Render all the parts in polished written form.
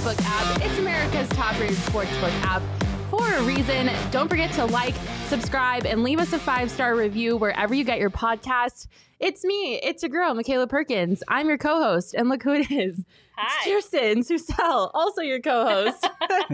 Sportsbook app. It's America's top-rated sportsbook app for a reason. Don't forget to like, subscribe, and leave us a 5-star review wherever you get your podcast. It's me. It's your girl, Michaela Perkins. I'm your co-host, and look who it is. Hi. It's Kirsten Susel, also your co-host.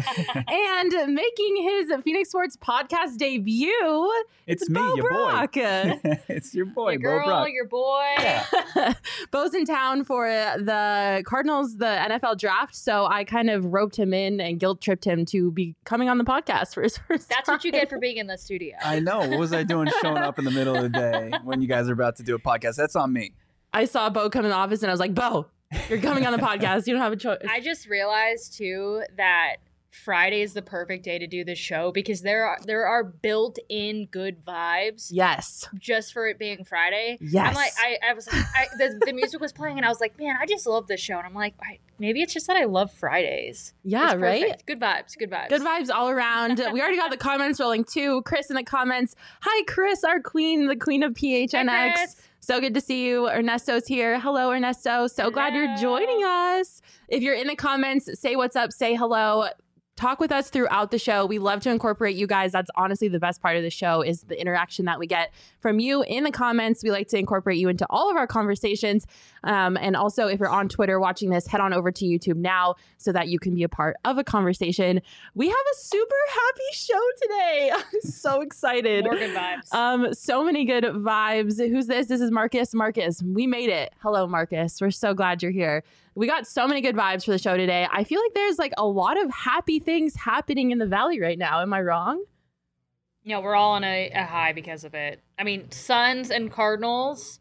And making his Phoenix Sports podcast debut, it's me, Bo your Brock. boy. It's your boy, Your girl, Bo Brock. your boy. Yeah. Bo's in town for the Cardinals, the NFL draft, so I kind of roped him in and guilt-tripped him to be coming on the podcast for his first That's time. what you get for being in the studio. I know. What was I doing showing up in the middle of the day when you guys are about to do a podcast? That's on me. I saw Bo come in the office, and I was like, Bo, you're coming on the podcast. You don't have a choice. I just realized too that Friday is the perfect day to do the show because there are built-in good vibes Yes. just for it being Friday. Yes. I'm like, I was like, the music was playing and I was like, man, I just love this show. And I'm like, maybe it's just that I love Fridays. Yeah, It's right? perfect. Good vibes. Good vibes. Good vibes all around. We already got the comments rolling too. Chris in the comments. Hi, Chris, our queen, the queen of PHNX. Hi, Chris. So good to see you. Ernesto's here. Hello, Ernesto. So glad you're joining us. If you're in the comments, say what's up, say hello. Talk with us throughout the show. We love to incorporate you guys. That's honestly the best part of the show is the interaction that we get from you in the comments. We like to incorporate you into all of our conversations. And also, if you're on Twitter watching this, head on over to YouTube now so that you can be a part of a conversation. We have a super happy show today. I'm so excited. More good vibes. So many good vibes. Who's this? This is Marcus. Marcus, we made it. Hello, Marcus. We're so glad you're here. We got so many good vibes for the show today. I feel like there's like a lot of happy things happening in the Valley right now. Am I wrong? Yeah, we're all on a high because of it. I mean, Suns and Cardinals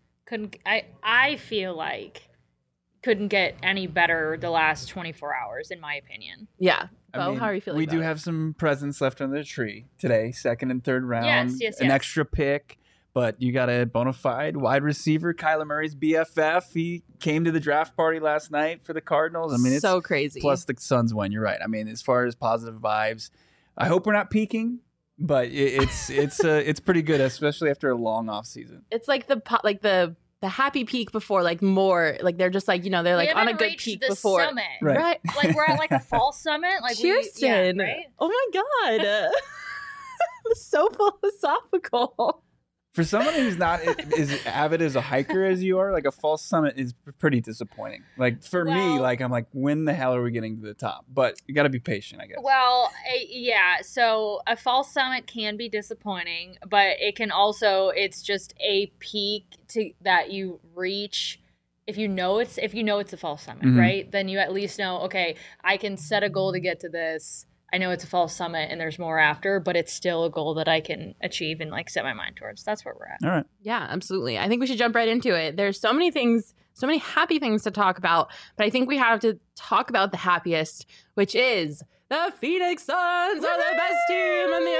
I feel like couldn't get any better the last 24 hours, in my opinion. Yeah. I Bo, mean, how are you feeling? We about do it? have some presents left under the tree today, second and third round. Yes. An extra pick. But you got a bona fide wide receiver, Kyler Murray's BFF. He came to the draft party last night for the Cardinals. I mean, it's so crazy. Plus the Suns win. You're right. I mean, as far as positive vibes, I hope we're not peaking, but it's pretty good, especially after a long off season. It's like the happy peak before, like more like they're just like, they're like on a good peak before. Summit. Right. Like we're at like a fall summit. Like Kirsten. right? Oh my God. So philosophical. For someone who's not as avid as a hiker as you are, like a false summit is pretty disappointing. Like for me, like I'm like, when the hell are we getting to the top? But you got to be patient, I guess. Well, yeah. So a false summit can be disappointing, but it can also, it's just a peak that you reach. If you know it's a false summit, right? Then you at least know, okay, I can set a goal to get to this. I know it's a false summit and there's more after, but it's still a goal that I can achieve and like set my mind towards. That's where we're at. All right. Yeah, absolutely. I think we should jump right into it. There's so many things, so many happy things to talk about, but I think we have to talk about the happiest, which is the Phoenix Suns are the best team in the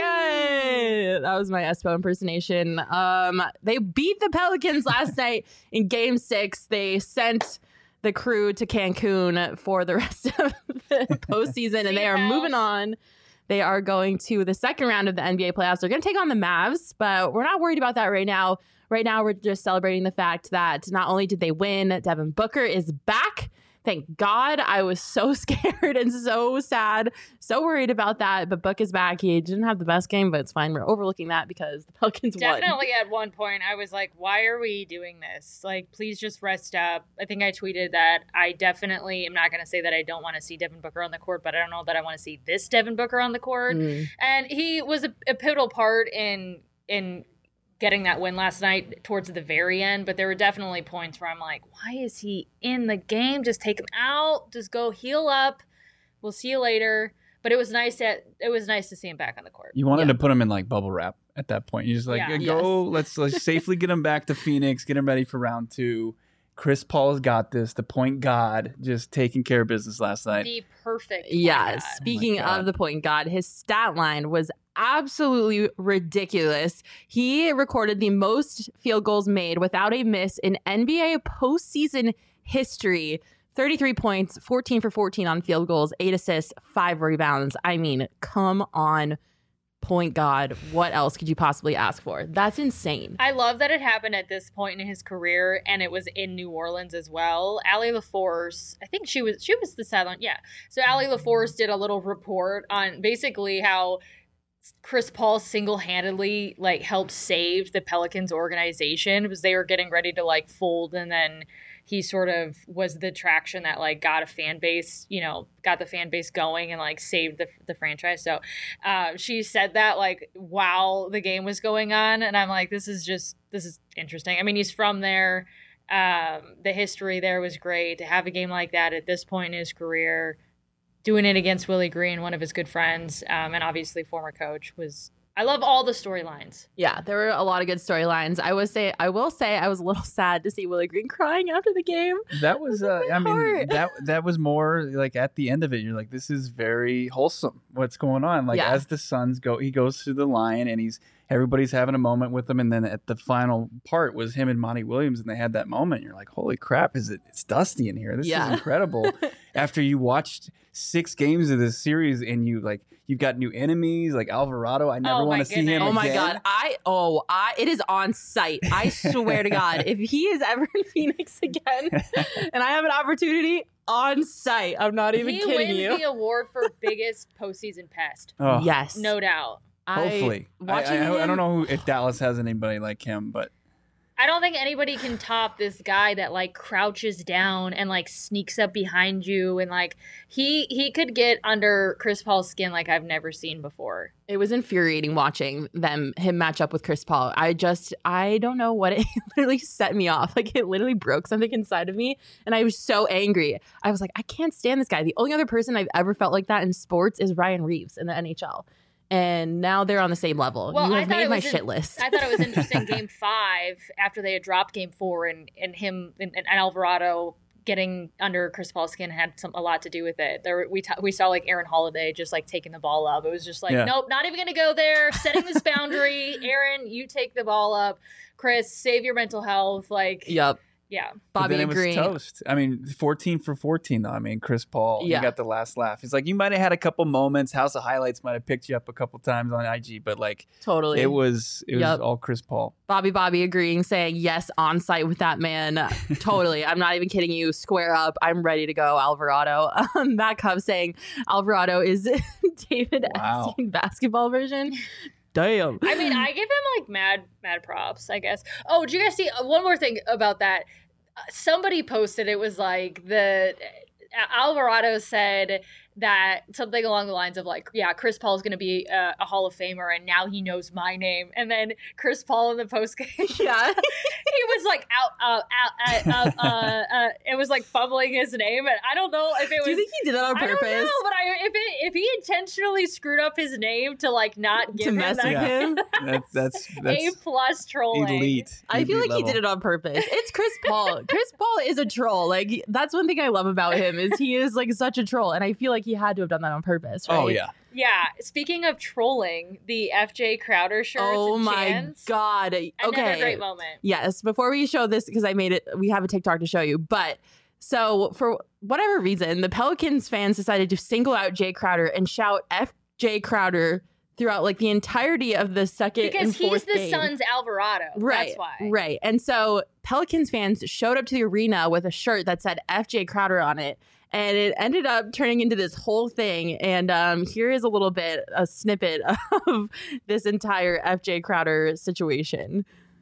NBA. That was my Espo impersonation. They beat the Pelicans last night in Game 6. They sent the crew to Cancun for the rest of the postseason, and they are moving on. They are going to the second round of the NBA playoffs. They're going to take on the Mavs, but we're not worried about that right now. Right now, we're just celebrating the fact that not only did they win, Devin Booker is back. Thank God. I was so scared and so sad, so worried about that. But Book is back. He didn't have the best game, but it's fine. We're overlooking that because the Pelicans won. Definitely at one point, I was like, why are we doing this? Like, please just rest up. I think I tweeted that I definitely am not going to say that I don't want to see Devin Booker on the court, but I don't know that I want to see this Devin Booker on the court. And he was a pivotal part in getting that win last night towards the very end, but there were definitely points where I'm like, why is he in the game? Just take him out. Just go heal up. We'll see you later. But it was nice to see him back on the court. You wanted to put him in like bubble wrap at that point. You just like let's safely get him back to Phoenix, get him ready for round 2. Chris Paul's got this. The point god just taking care of business last night. The perfect. Yes. Speaking of the point guard, his stat line was absolutely ridiculous. He recorded the most field goals made without a miss in NBA postseason history. 33 points, 14 for 14 on field goals, 8 assists, 5 rebounds. I mean, come on. point guard. What else could you possibly ask for? That's insane. I love that it happened at this point in his career, and it was in New Orleans as well. Allie LaForce, I think she was the sideline. Yeah. So Allie LaForce did a little report on basically how Chris Paul single-handedly like helped save the Pelicans organization because they were getting ready to like fold, and then he sort of was the traction that like got a fan base, got the fan base going and like saved the franchise. So she said that like while the game was going on, and I'm like, this is interesting. I mean, he's from there. The history there was great. To have a game like that at this point in his career, doing it against Willie Green, one of his good friends, and obviously former coach, I love all the storylines. Yeah, there were a lot of good storylines. I will say I was a little sad to see Willie Green crying after the game. That was that was more like at the end of it, you're like, this is very wholesome. What's going on? Like as the Suns go, he goes through the line and everybody's having a moment with him, and then at the final part was him and Monty Williams, and they had that moment. You're like, holy crap, it's dusty in here. This is incredible. After you watched 6 games of this series and you've got new enemies like Alvarado. I never want to see him again. Oh my God. It is on site. I swear to God, if he is ever in Phoenix again and I have an opportunity, on site, I'm not even kidding you. He wins the award for biggest postseason pest. Oh. Yes. No doubt. Hopefully. I don't know if Dallas has anybody like him, but I don't think anybody can top this guy that like crouches down and like sneaks up behind you, and like he could get under Chris Paul's skin like I've never seen before. It was infuriating watching him match up with Chris Paul. I don't know what it literally set me off. Like it literally broke something inside of me, and I was so angry. I was like, I can't stand this guy. The only other person I've ever felt like that in sports is Ryan Reeves in the NHL. And now they're on the same level. Well, you have made my shit list. I thought it was interesting. Game 5, after they had dropped Game 4, and him and Alvarado getting under Chris Paul's skin had a lot to do with it. We saw like Aaron Holiday just like taking the ball up. It was just like, nope, not even going to go there. Setting this boundary. Aaron, you take the ball up. Chris, save your mental health. Like, yep. Yeah. Bobby it was toast. I mean, 14 for 14, though. I mean, Chris Paul, he got the last laugh. He's like, you might have had a couple moments. House of Highlights might have picked you up a couple times on IG, but like, totally, it was all Chris Paul. Bobby agreeing, saying yes, on site with that man. Totally. I'm not even kidding you. Square up. I'm ready to go, Alvarado. Matt Cub saying Alvarado is David Epstein basketball version. Damn. I mean, I give him like mad props, I guess. Oh, did you guys see one more thing about that? Somebody posted, it was like Alvarado said that something along the lines of like, yeah, Chris Paul is going to be a Hall of Famer, and now he knows my name. And then Chris Paul in the postgame, he was like it was like fumbling his name, and I don't know if it was. Do you think he did that on purpose? I don't know, but if he intentionally screwed up his name to like not give to mess with him, that's A+ trolling. Elite. I feel like he did it on purpose. It's Chris Paul. Chris Paul is a troll. Like that's one thing I love about him is he is like such a troll, and I feel like he had to have done that on purpose, right? Oh, yeah. Yeah. Speaking of trolling, the FJ Crowder shirts. Oh, my God. Okay. Another great moment. Yes. Before we show this, because we have a TikTok to show you. But so for whatever reason, the Pelicans fans decided to single out Jay Crowder and shout FJ Crowder throughout like the entirety of the second and fourth game. Because he's the Suns' Alvarado. Right. That's why. Right. And so Pelicans fans showed up to the arena with a shirt that said FJ Crowder on it. And it ended up turning into this whole thing. And here is a snippet of this entire FJ Crowder situation.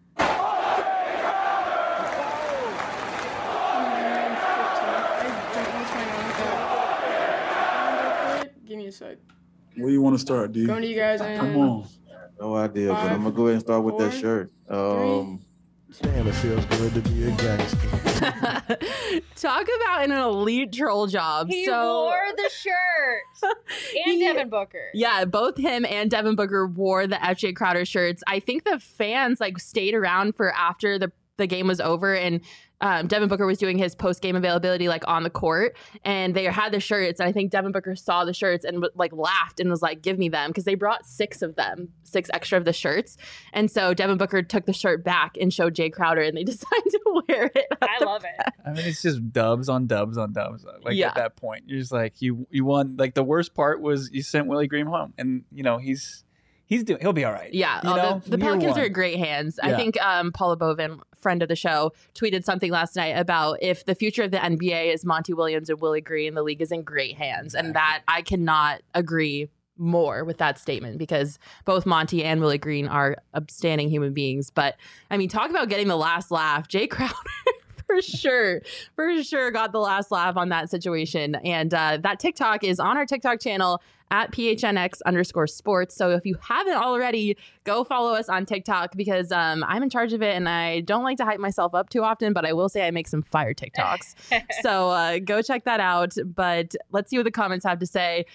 Give me a sec. Where you want to start, D? Going to you guys. Come on. No idea, but I'm going to go ahead and start with that shirt. Damn, it feels good to be a gangster. Talk about an elite troll job. He wore the shirt. And Devin Booker. Yeah, both him and Devin Booker wore the FJ Crowder shirts. I think the fans like stayed around for after the game was over, and Devin Booker was doing his post-game availability like on the court, and they had the shirts, and I think Devin Booker saw the shirts and like laughed and was like, give me them, because they brought 6 extra of the shirts. And so Devin Booker took the shirt back and showed Jay Crowder, and they decided to wear it. I love it. I mean, it's just dubs on dubs on dubs. Like at that point, you're just like, you won. Like the worst part was you sent Willie Green home, and you know he's he'll be all right. Yeah, the Year Pelicans one. are in great hands. Yeah. I think Paula Bovin, friend of the show, tweeted something last night about if the future of the NBA is Monty Williams and Willie Green, the league is in great hands. And that I cannot agree more with that statement because both Monty and Willie Green are upstanding human beings. But I mean, talk about getting the last laugh. Jay Crowder for sure got the last laugh on that situation. And that TikTok is on our TikTok channel at PHNX_sports. So if you haven't already, go follow us on TikTok because I'm in charge of it and I don't like to hype myself up too often, but I will say I make some fire TikToks. So go check that out. But let's see what the comments have to say.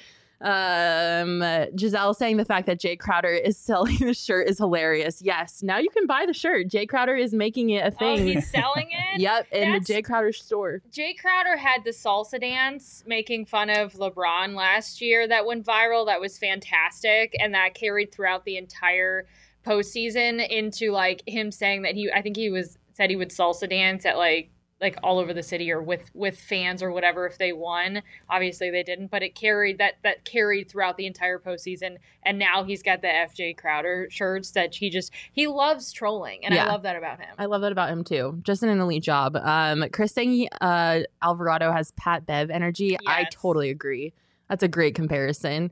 Giselle saying the fact that Jay Crowder is selling the shirt is hilarious. Yes, now you can buy the shirt. Jay Crowder is making it a thing. Oh, he's selling it? Yep, in the That's- Jay Crowder store. Jay Crowder had the salsa dance making fun of LeBron last year that went viral. That was fantastic. And that carried throughout the entire postseason into like him saying that I think he said he would salsa dance at like all over the city or with fans or whatever if they won. Obviously they didn't, but it carried that carried throughout the entire postseason. And now he's got the FJ Crowder shirts that he loves trolling. And I love that about him. I love that about him too. Just an elite job. Chris saying Alvarado has Pat Bev energy. Yes. I totally agree. That's a great comparison.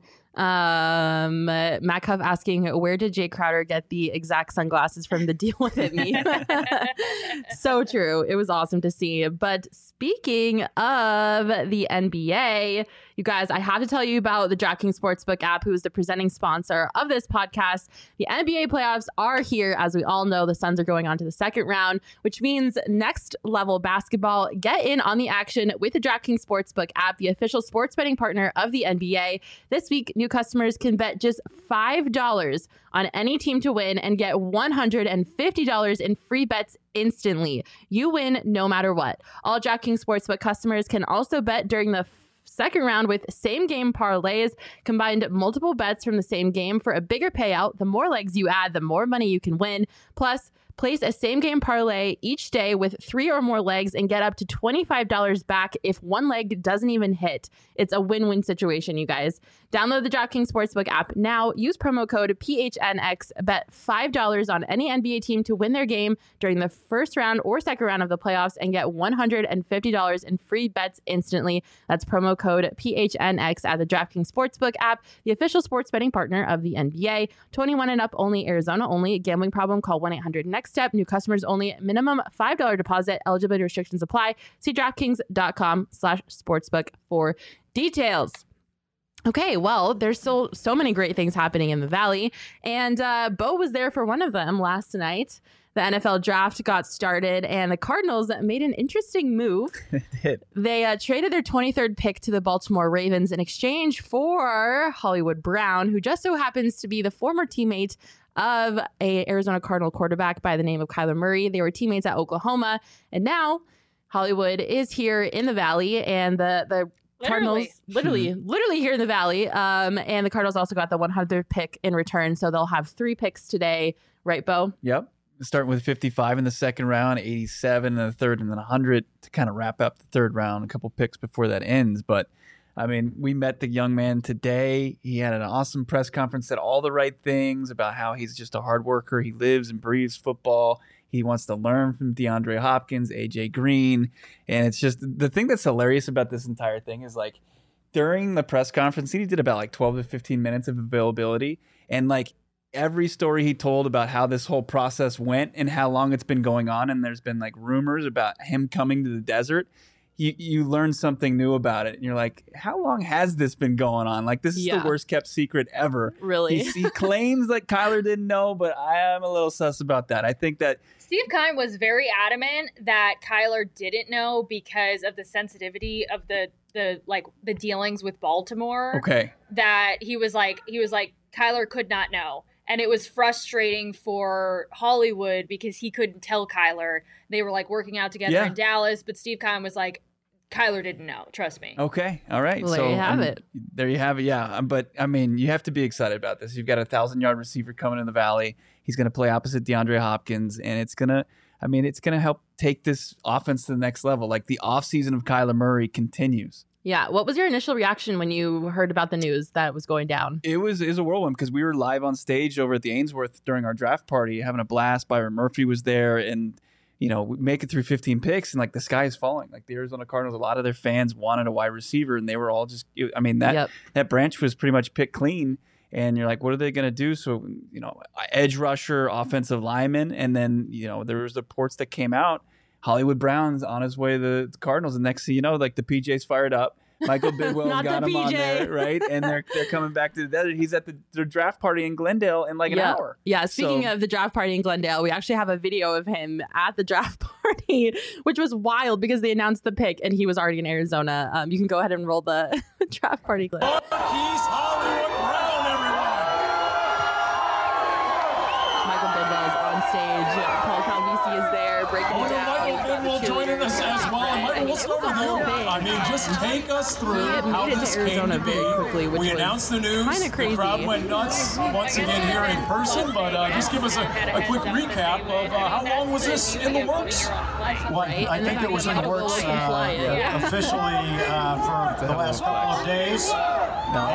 Matt Cuff asking, where did Jay Crowder get the exact sunglasses from the Deal With It meme? So true. It was awesome to see. But speaking of the NBA, you guys, I have to tell you about the DraftKings Sportsbook app, who is the presenting sponsor of this podcast. The NBA playoffs are here. As we all know, the Suns are going on to the second round, which means next level basketball. Get in on the action with the DraftKings Sportsbook app, the official sports betting partner of the NBA. This week, new customers can bet just $5 on any team to win and get $150 in free bets instantly. You win no matter what. All DraftKings Sportsbook customers can also bet during the second round with same game parlays, combined multiple bets from the same game for a bigger payout. The more legs you add, the more money you can win. Plus, place a same game parlay each day with 3 or more legs and get up to $25 back if one leg doesn't even hit. It's a win-win situation, you guys. Download the DraftKings Sportsbook app now. Use promo code PHNX. Bet $5 on any NBA team to win their game during the first round or second round of the playoffs and get $150 in free bets instantly. That's promo code PHNX at the DraftKings Sportsbook app, the official sports betting partner of the NBA. 21 and up only, Arizona only. Gambling problem? Call 1-800-NEXT-STEP. New customers only. Minimum $5 deposit. Eligibility restrictions apply. See DraftKings.com/sportsbook for details. Okay, well, there's still so many great things happening in the Valley, and Bo was there for one of them last night. The NFL draft got started, and the Cardinals made an interesting move. They traded their 23rd pick to the Baltimore Ravens in exchange for Hollywood Brown, who just so happens to be the former teammate of a Arizona Cardinal quarterback by the name of Kyler Murray. They were teammates at Oklahoma, and now Hollywood is here in the Valley, and the Cardinals literally here in the Valley. And the Cardinals also got the 100th pick in return. So they'll have 3 picks today. Right, Bo? Yep. Starting with 55 in the second round, 87 in the third, and then 100 to kind of wrap up the third round. A couple picks before that ends. But, I mean, we met the young man today. He had an awesome press conference, said all the right things about how he's just a hard worker. He lives and breathes football. He wants to learn from DeAndre Hopkins, AJ Green. And it's just the thing that's hilarious about this entire thing is like during the press conference, he did about like 12 to 15 minutes of availability. And like every story he told about how this whole process went and how long it's been going on. And there's been like rumors about him coming to the desert. You learn something new about it. And you're like, how long has this been going on? Like, this is the worst kept secret ever. Really? He claims that Kyler didn't know, but I am a little sus about that. I think that Steve Keim was very adamant that Kyler didn't know because of the sensitivity of the dealings with Baltimore. Okay. That he was like Kyler could not know. And it was frustrating for Hollywood because he couldn't tell Kyler. They were like working out together in Dallas, but Steve Keim was like, Kyler didn't know. Trust me. Okay. All right. Well, there you have it. There you have it. Yeah. But I mean, you have to be excited about this. You've got a 1,000-yard receiver coming in the Valley. He's going to play opposite DeAndre Hopkins, and it's going to help take this offense to the next level. Like the offseason of Kyler Murray continues. Yeah. What was your initial reaction when you heard about the news that it was going down? It was a whirlwind because we were live on stage over at the Ainsworth during our draft party, having a blast. Byron Murphy was there, and we make it through 15 picks, and like the sky is falling. Like the Arizona Cardinals, a lot of their fans wanted a wide receiver, and they were all just. I mean that branch was pretty much picked clean, and you're like, what are they going to do? So edge rusher, offensive lineman, and then there was reports that came out. Hollywood Brown's on his way to the Cardinals, and next thing you know, like the PJ's fired up. Michael Bidwell's got him on there, right? And they're coming back to the desert. He's at the draft party in Glendale in like an hour. Yeah, speaking of the draft party in Glendale, we actually have a video of him at the draft party, which was wild because they announced the pick and he was already in Arizona. You can go ahead and roll the draft party clip. He's Hollywood Brown, everyone. Michael Bidwell is on stage. Paul Calvisi is there breaking it down. Michael Bidwell joining us as well. And Michael, we'll start with you. I mean, just take us through how this came to be. Quickly, we announced the news. The crowd went nuts once again here in person. But just give us a quick recap of how long was this in the works? Well, I think it was in the works officially for the last couple of days. No,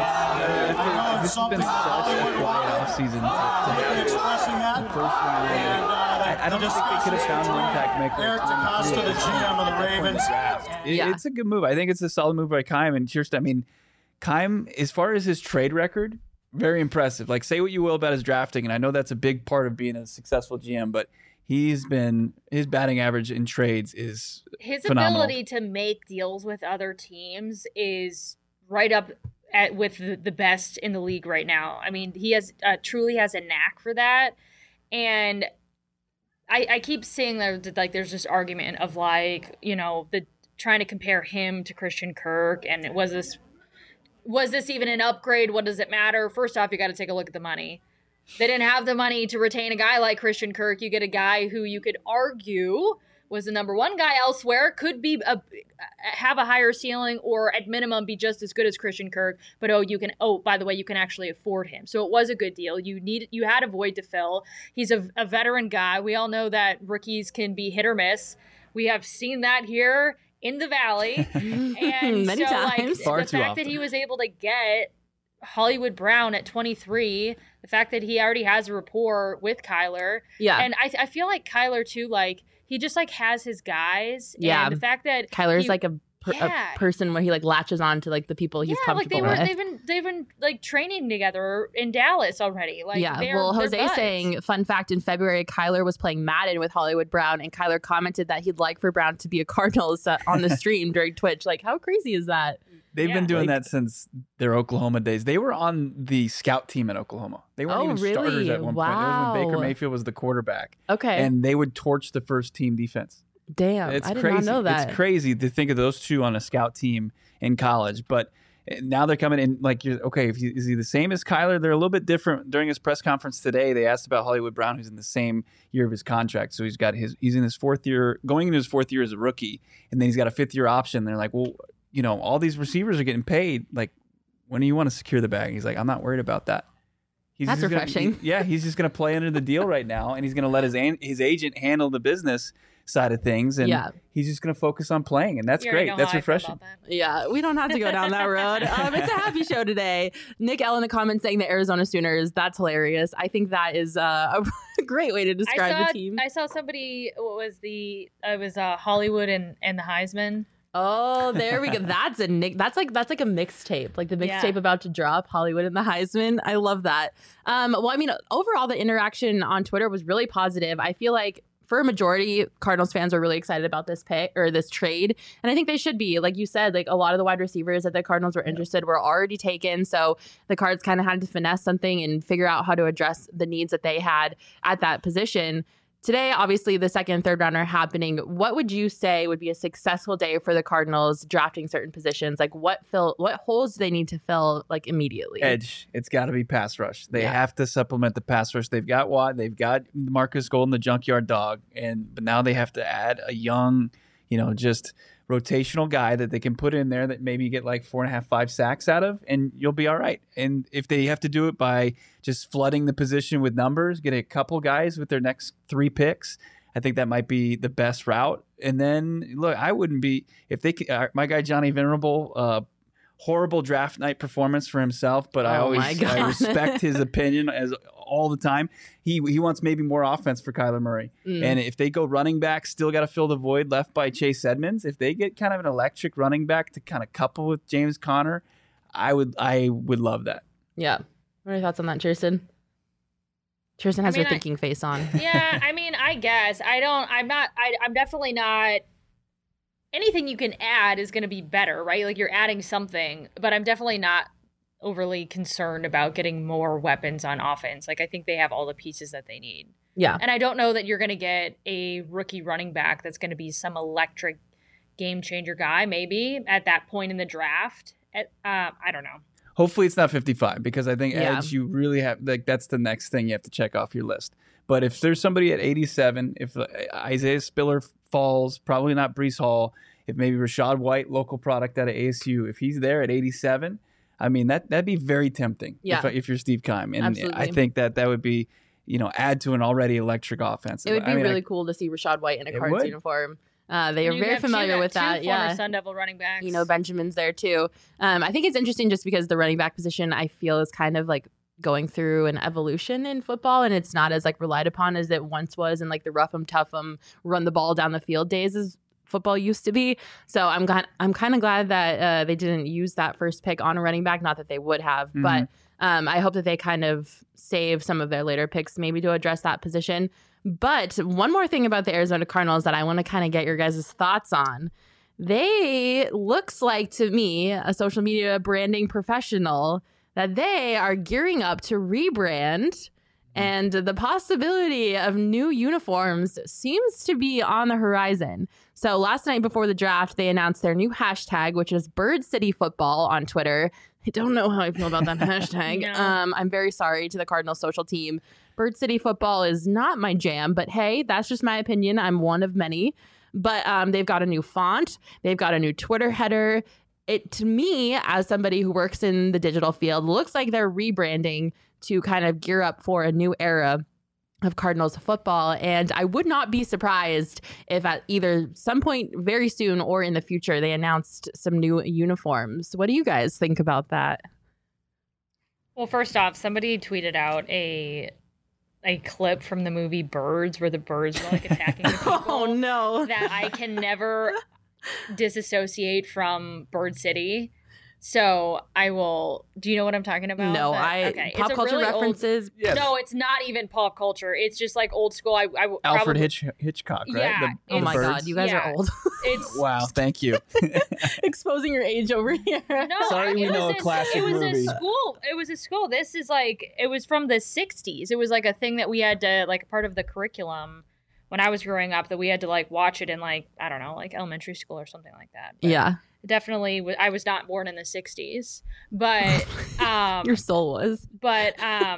this has been such a quiet offseason. Expressing that. First round. I don't think they could have found an impact maker. Eric DeCosta, the GM of the Ravens. It's a good move. I think it's a solid move by Keim. And Kirsten, I mean, Keim, as far as his trade record, very impressive. Like, say what you will about his drafting, and I know that's a big part of being a successful GM, but his batting average in trades is his phenomenal. Ability to make deals with other teams is right up with the best in the league right now. I mean, he truly has a knack for that, and I keep seeing that like there's this argument of like the trying to compare him to Christian Kirk, and was this even an upgrade? What does it matter? First off, you got to take a look at the money. They didn't have the money to retain a guy like Christian Kirk. You get a guy who you could argue was the number one guy elsewhere, could be have a higher ceiling, or at minimum be just as good as Christian Kirk. But by the way, you can actually afford him. So it was a good deal. You had a void to fill. He's a veteran guy. We all know that rookies can be hit or miss. We have seen that here in the Valley, and many times. The fact that he was able to get Hollywood Brown at 23, the fact that he already has a rapport with Kyler, and I feel like Kyler too, like. He just like has his guys. Yeah. And the fact that Kyler's like a person where he like latches on to like the people he's comfortable with. They've been like training together in Dallas already. Like Jose saying, fun fact, in February, Kyler was playing Madden with Hollywood Brown, and Kyler commented that he'd like for Brown to be a Cardinals on the stream during Twitch. Like, how crazy is that? They've been doing that since their Oklahoma days. They were on the scout team at Oklahoma. They weren't even starters at one point. It was when Baker Mayfield was the quarterback. Okay. And they would torch the first team defense. Damn, I did not know that. It's crazy to think of those two on a scout team in college. But now they're coming in like, is he the same as Kyler? They're a little bit different. During his press conference today, they asked about Hollywood Brown, who's in the same year of his contract. So he's in his fourth year, going into his fourth year as a rookie, and then he's got a fifth year option. They're like, well, all these receivers are getting paid. Like, when do you want to secure the bag? He's like, I'm not worried about that. That's refreshing. He's just going to play under the deal right now, and he's going to let his agent handle the business side of things, and he's just going to focus on playing, and that's great. That's refreshing. Yeah, we don't have to go down that road. It's a happy show today. Nick L in the comments saying the Arizona Sooners. That's hilarious. I think that is a great way to describe the team. I saw somebody. It was Hollywood and the Heisman. Oh, there we go. That's like a mixtape, like the mixtape about to drop, Hollywood and the Heisman. I love that. Well, I mean, overall, the interaction on Twitter was really positive. I feel like for a majority, Cardinals fans are really excited about this pick or this trade. And I think they should be. Like you said, like a lot of the wide receivers that the Cardinals were interested were already taken. So the Cards kind of had to finesse something and figure out how to address the needs that they had at that position. Today, obviously, the second and third round are happening. What would you say would be a successful day for the Cardinals drafting certain positions? Like what holes do they need to fill like immediately? Edge. It's got to be pass rush. They have to supplement the pass rush. They've got Watt. They've got Marcus Golden, the junkyard dog. But now they have to add a young, just rotational guy that they can put in there that maybe you get like 4.5, 5 sacks out of, and you'll be all right. And if they have to do it by just flooding the position with numbers, get a couple guys with their next 3 picks, I think that might be the best route. And then, look, I wouldn't be if they my guy Johnny Venerable. Horrible draft night performance for himself, but I respect his opinion as all the time. He wants maybe more offense for Kyler Murray. And if they go running back, still got to fill the void left by Chase Edmonds. If they get kind of an electric running back to kind of couple with James Conner, I would love that. Yeah. What are your thoughts on that, Kirsten? Kirsten has her thinking face on. Yeah, I mean, I guess I'm definitely not. Anything you can add is going to be better, right? Like you're adding something, but I'm definitely not overly concerned about getting more weapons on offense. Like I think they have all the pieces that they need. Yeah. And I don't know that you're going to get a rookie running back that's going to be some electric game changer guy, maybe at that point in the draft. I don't know. Hopefully it's not 55 because I think edge you really have that's the next thing you have to check off your list. But if there's somebody at 87, if Isaiah Spiller falls, probably not Breece Hall, if maybe Rachaad White, local product out of ASU, if he's there at 87, I mean, that'd be very tempting if you're Steve Keim. And absolutely. I think that would be, add to an already electric offense. It would be really cool to see Rachaad White in a Cards uniform. They are very familiar with that. Former Sun Devil running backs. Benjamin's there too. I think it's interesting just because the running back position I feel is kind of like going through an evolution in football, and it's not as like relied upon as it once was in like the rough 'em tough 'em run the ball down the field days as football used to be. So I'm kind of glad that they didn't use that first pick on a running back. Not that they would have, but I hope that they kind of save some of their later picks maybe to address that position. But one more thing about the Arizona Cardinals that I want to kind of get your guys' thoughts on. They looks like to me, a social media branding professional, that they are gearing up to rebrand, and the possibility of new uniforms seems to be on the horizon. So last night before the draft, they announced their new hashtag, which is Bird City Football on Twitter. I don't know how I feel about that hashtag. No. I'm very sorry to the Cardinals social team. Bird City Football is not my jam, but hey, that's just my opinion. I'm one of many. But they've got a new font. They've got a new Twitter header. It, to me, as somebody who works in the digital field, looks like they're rebranding to kind of gear up for a new era of Cardinals football. And I would not be surprised if at either some point very soon or in the future, they announced some new uniforms. What do you guys think about that? Well, first off, somebody tweeted out a clip from the movie Birds where the birds were like attacking the people. Oh, no. That I can never disassociate from Bird City. So I will. Do you know what I'm talking about? No, okay. Pop culture really references. No, it's not even pop culture. It's just like old school. Alfred Hitchcock, right? Yeah. Oh my God, you guys are old. It's wow. Thank you. Exposing your age over here. No, sorry, we know a classic movie. It was a school. This is like it was from the '60s. It was like a thing that we had to like part of the curriculum when I was growing up that we had to like watch it in like I don't know like elementary school or something like that. But yeah. Definitely, I was not born in the 60s, but your soul was. But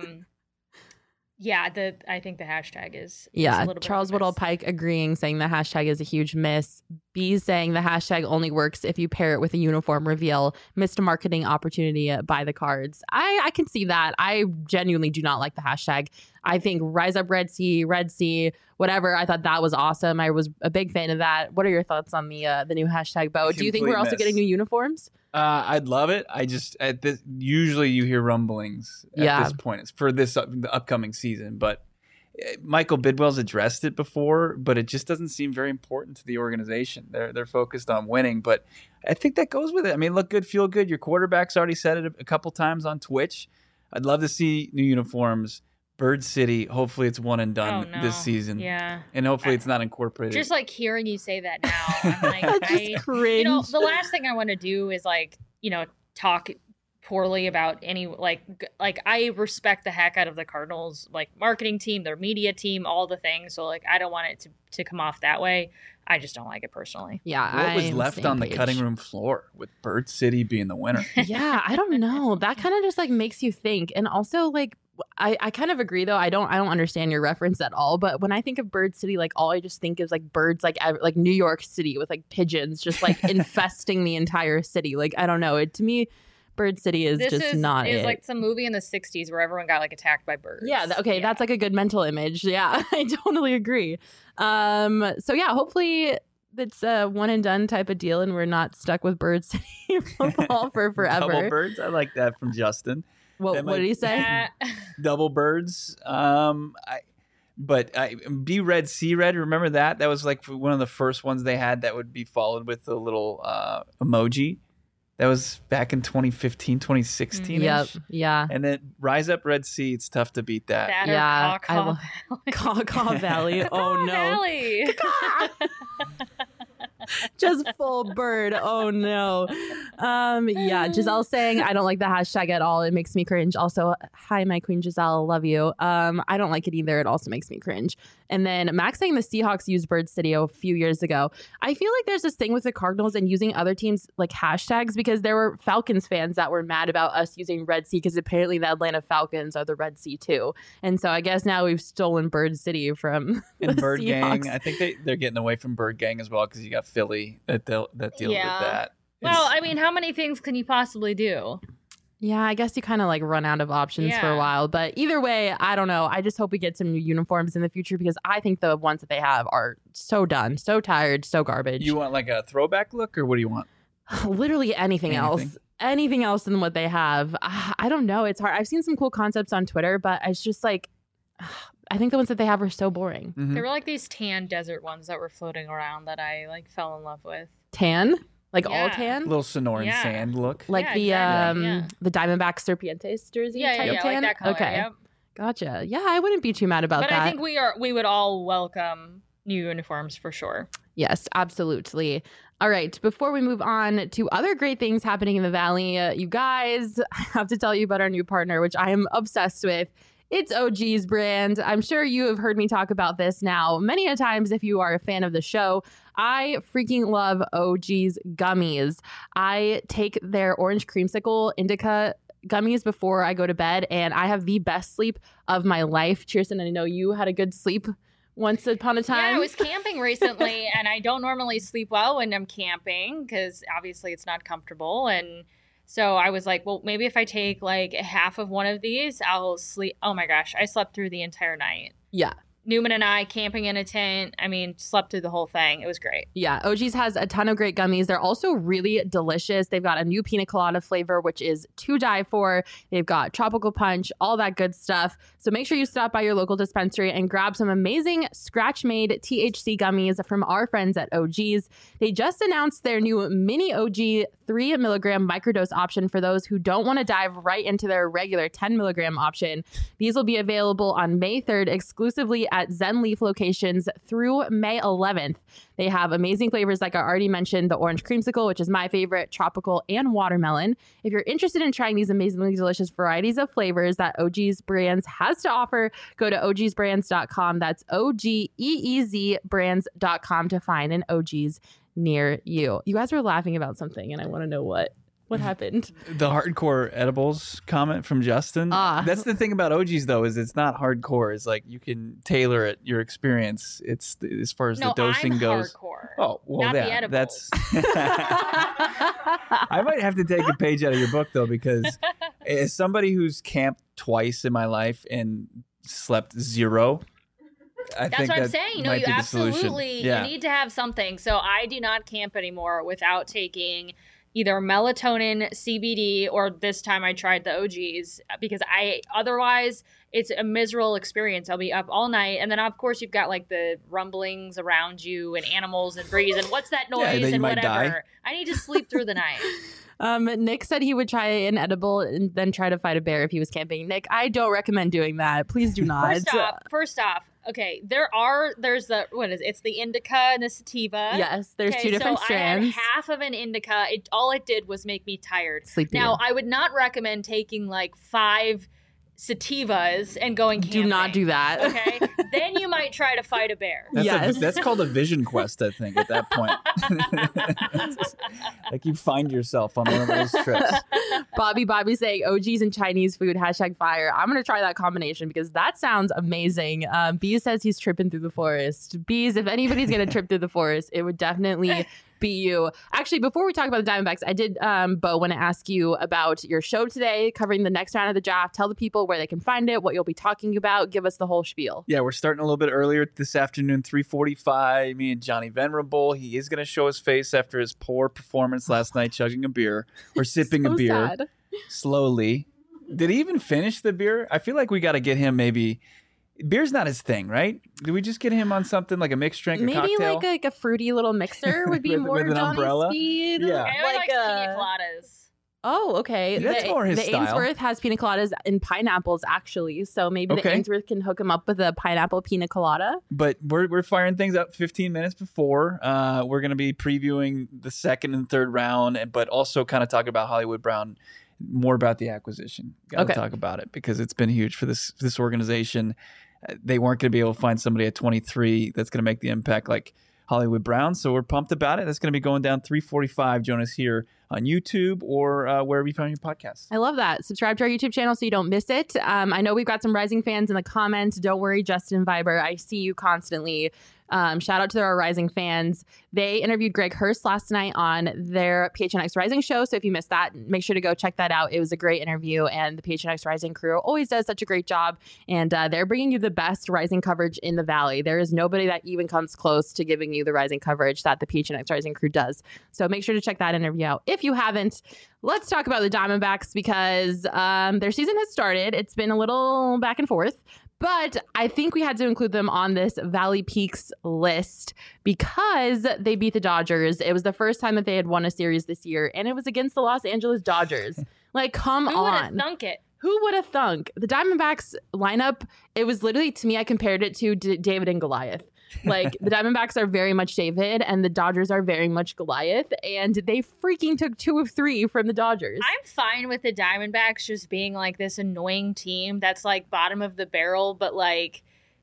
yeah, I think the hashtag is a little bit Charles Woodall Pike agreeing, saying the hashtag is a huge miss. B saying the hashtag only works if you pair it with a uniform reveal. Missed a marketing opportunity by the Cards. I can see that. I genuinely do not like the hashtag. I think Rise Up Red Sea, whatever. I thought that was awesome. I was a big fan of that. What are your thoughts on the new hashtag, Bo? Do you think we're also getting new uniforms? I'd love it. I just usually you hear rumblings at this point. It's for the upcoming season, but Michael Bidwell's addressed it before, but it just doesn't seem very important to the organization. They're focused on winning, but I think that goes with it. I mean, look good, feel good. Your quarterback's already said it a couple times on Twitch. I'd love to see new uniforms. Bird City, hopefully it's one and done this season. Yeah. And hopefully it's not incorporated. Just like hearing you say that now, I'm like, just cringe. The last thing I want to do is like, talk poorly about any, like I respect the heck out of the Cardinals, like marketing team, their media team, all the things. So like, I don't want it to come off that way. I just don't like it personally. Yeah. What was left on the cutting room floor with Bird City being the winner? Yeah. I don't know. That kind of just like makes you think. And also like, I kind of agree though. I don't understand your reference at all. But when I think of Bird City, like all I just think is like birds, like New York City with like pigeons just like infesting the entire city. Like I don't know. To me, Bird City is not it. It's like some movie in the 60s where everyone got like attacked by birds. Yeah. That's like a good mental image. Yeah, I totally agree. So yeah, hopefully it's a one and done type of deal and we're not stuck with Bird City football for forever. Double birds. I like that from Justin. What did he say? Double birds. B Red, C Red. Remember that? That was like one of the first ones they had that would be followed with a little emoji. That was back in 2015, 2016. Yep. Yeah. And then Rise Up Red Sea. It's tough to beat that. Caw Valley. Oh no. Valley. Just full bird. Oh no. Yeah, Giselle saying I don't like the hashtag at all. It makes me cringe. Also, hi, my queen Giselle, love you. I don't like it either. It also makes me cringe. And then Max saying the Seahawks used Bird City a few years ago. I feel like there's this thing with the Cardinals and using other teams like hashtags because there were Falcons fans that were mad about us using Red Sea because apparently the Atlanta Falcons are the Red Sea too. And so I guess now we've stolen Bird City from the Bird Seahawks. Gang. I think they're getting away from Bird Gang as well because you got Philly that deals with that. Well, I mean, how many things can you possibly do? Yeah, I guess you kind of like run out of options for a while. But either way, I don't know. I just hope we get some new uniforms in the future because I think the ones that they have are so done, so tired, so garbage. You want like a throwback look or what do you want? Literally anything else. Anything else than what they have. I don't know. It's hard. I've seen some cool concepts on Twitter, but it's just like, I think the ones that they have are so boring. There were like these tan desert ones that were floating around that I like fell in love with. Tan? Like all tan? A little Sonoran sand look. Like the Diamondback Serpientes jersey type tan? Like that color, okay. Yep. Gotcha. Yeah, I wouldn't be too mad about that. But I think we would all welcome new uniforms for sure. Yes, absolutely. All right. Before we move on to other great things happening in the Valley, you guys, I have to tell you about our new partner, which I am obsessed with. It's OG's brand. I'm sure you have heard me talk about this now many a times if you are a fan of the show. I freaking love OG's gummies. I take their orange creamsicle indica gummies before I go to bed, and I have the best sleep of my life. Kirsten, I know you had a good sleep once upon a time. Yeah, I was camping recently, and I don't normally sleep well when I'm camping because obviously it's not comfortable. And so I was like, well, maybe if I take like half of one of these, I'll sleep. Oh my gosh, I slept through the entire night. Yeah. Newman and I camping in a tent. I mean, slept through the whole thing. It was great. Yeah, OG's has a ton of great gummies. They're also really delicious. They've got a new pina colada flavor, which is to die for. They've got tropical punch, all that good stuff. So make sure you stop by your local dispensary and grab some amazing scratch-made THC gummies from our friends at OG's. They just announced their new mini OG 3 milligram microdose option for those who don't want to dive right into their regular 10 milligram option. These will be available on May 3rd exclusively at Zen Leaf locations through May 11th. They have amazing flavors like I already mentioned, the orange creamsicle, which is my favorite, tropical, and watermelon. If you're interested in trying these amazingly delicious varieties of flavors that OG's Brands has to offer, go to ogsbrands.com. That's OGEEZ brands.com to find an OG's near you. You guys were laughing about something, and I want to know what happened. The hardcore edibles comment from Justin. That's the thing about OG's though, is it's not hardcore. It's like you can tailor it your experience. It's as far as the dosing goes. Hardcore. Oh well, not the edibles. That's. I might have to take a page out of your book though, because as somebody who's camped twice in my life and slept zero. That's what I'm saying. No, you absolutely you need to have something. So I do not camp anymore without taking either melatonin, CBD, or this time I tried the OGs because otherwise it's a miserable experience. I'll be up all night. And then of course you've got like the rumblings around you and animals and breeze and what's that noise and whatever. Die. I need to sleep through the night. Nick said he would try an edible and then try to fight a bear if he was camping. Nick, I don't recommend doing that. Please do not. First off, okay, there's it's the indica and the sativa. Yes, there's two different strands. I had half of an indica. All it did was make me tired. Sleepy. Now, I would not recommend taking like 5 sativas and going camping. Do not do that. Okay? Then you might try to fight a bear. That's called a vision quest, I think, at that point. Like you find yourself on one of those trips. Bobby saying OGs and Chinese food, #fire. I'm going to try that combination because that sounds amazing. Bees says he's tripping through the forest. Bees, if anybody's going to trip through the forest, it would definitely beat you. Actually, before we talk about the Diamondbacks, I did, Bo, want to ask you about your show today, covering the next round of the draft. Tell the people where they can find it, what you'll be talking about. Give us the whole spiel. Yeah, we're starting a little bit earlier this afternoon, 3:45. Me and Johnny Venerable. He is going to show his face after his poor performance last night, chugging a beer or sipping a beer sad. slowly. Did he even finish the beer? I feel like we got to get him maybe. Beer's not his thing, right? Do we just get him on something like a mixed drink or Maybe cocktail? like a fruity little mixer would be With more an Johnny's umbrella? speed. Yeah. I like pina coladas. Oh, okay. That's more his the style. Ainsworth has pina coladas and pineapples, actually. So maybe the Okay. Ainsworth can hook him up with a pineapple pina colada. But we're firing things up 15 minutes before. We're going to be previewing the second and third round, but also kind of talk about Hollywood Brown, more about the acquisition. Got to talk about it because it's been huge for this organization. They weren't going to be able to find somebody at 23 that's going to make the impact like Hollywood Brown. So we're pumped about it. That's going to be going down 3:45. Join us here on YouTube or wherever you find your podcasts. I love that. Subscribe to our YouTube channel so you don't miss it. I know we've got some Rising fans in the comments. Don't worry, Justin Viber. I see you constantly. Shout out to our Rising fans. They interviewed Greg Hurst last night on their PHNX Rising show. So if you missed that, make sure to go check that out. It was a great interview, and the PHNX Rising crew always does such a great job. And they're bringing you the best Rising coverage in the Valley. There is nobody that even comes close to giving you the Rising coverage that the PHNX Rising crew does. So make sure to check that interview out. If you haven't, let's talk about the Diamondbacks because their season has started. It's been a little back and forth. But I think we had to include them on this Valley Peaks list because they beat the Dodgers. It was the first time that they had won a series this year, and it was against the Los Angeles Dodgers. Like, come Who on. would have thunk it? Who would have thunk? The Diamondbacks lineup, it was literally, to me, I compared it to David and Goliath. Like, the Diamondbacks are very much David, and the Dodgers are very much Goliath, and they freaking took 2 of 3 from the Dodgers. I'm fine with the Diamondbacks just being like this annoying team that's like bottom of the barrel, but like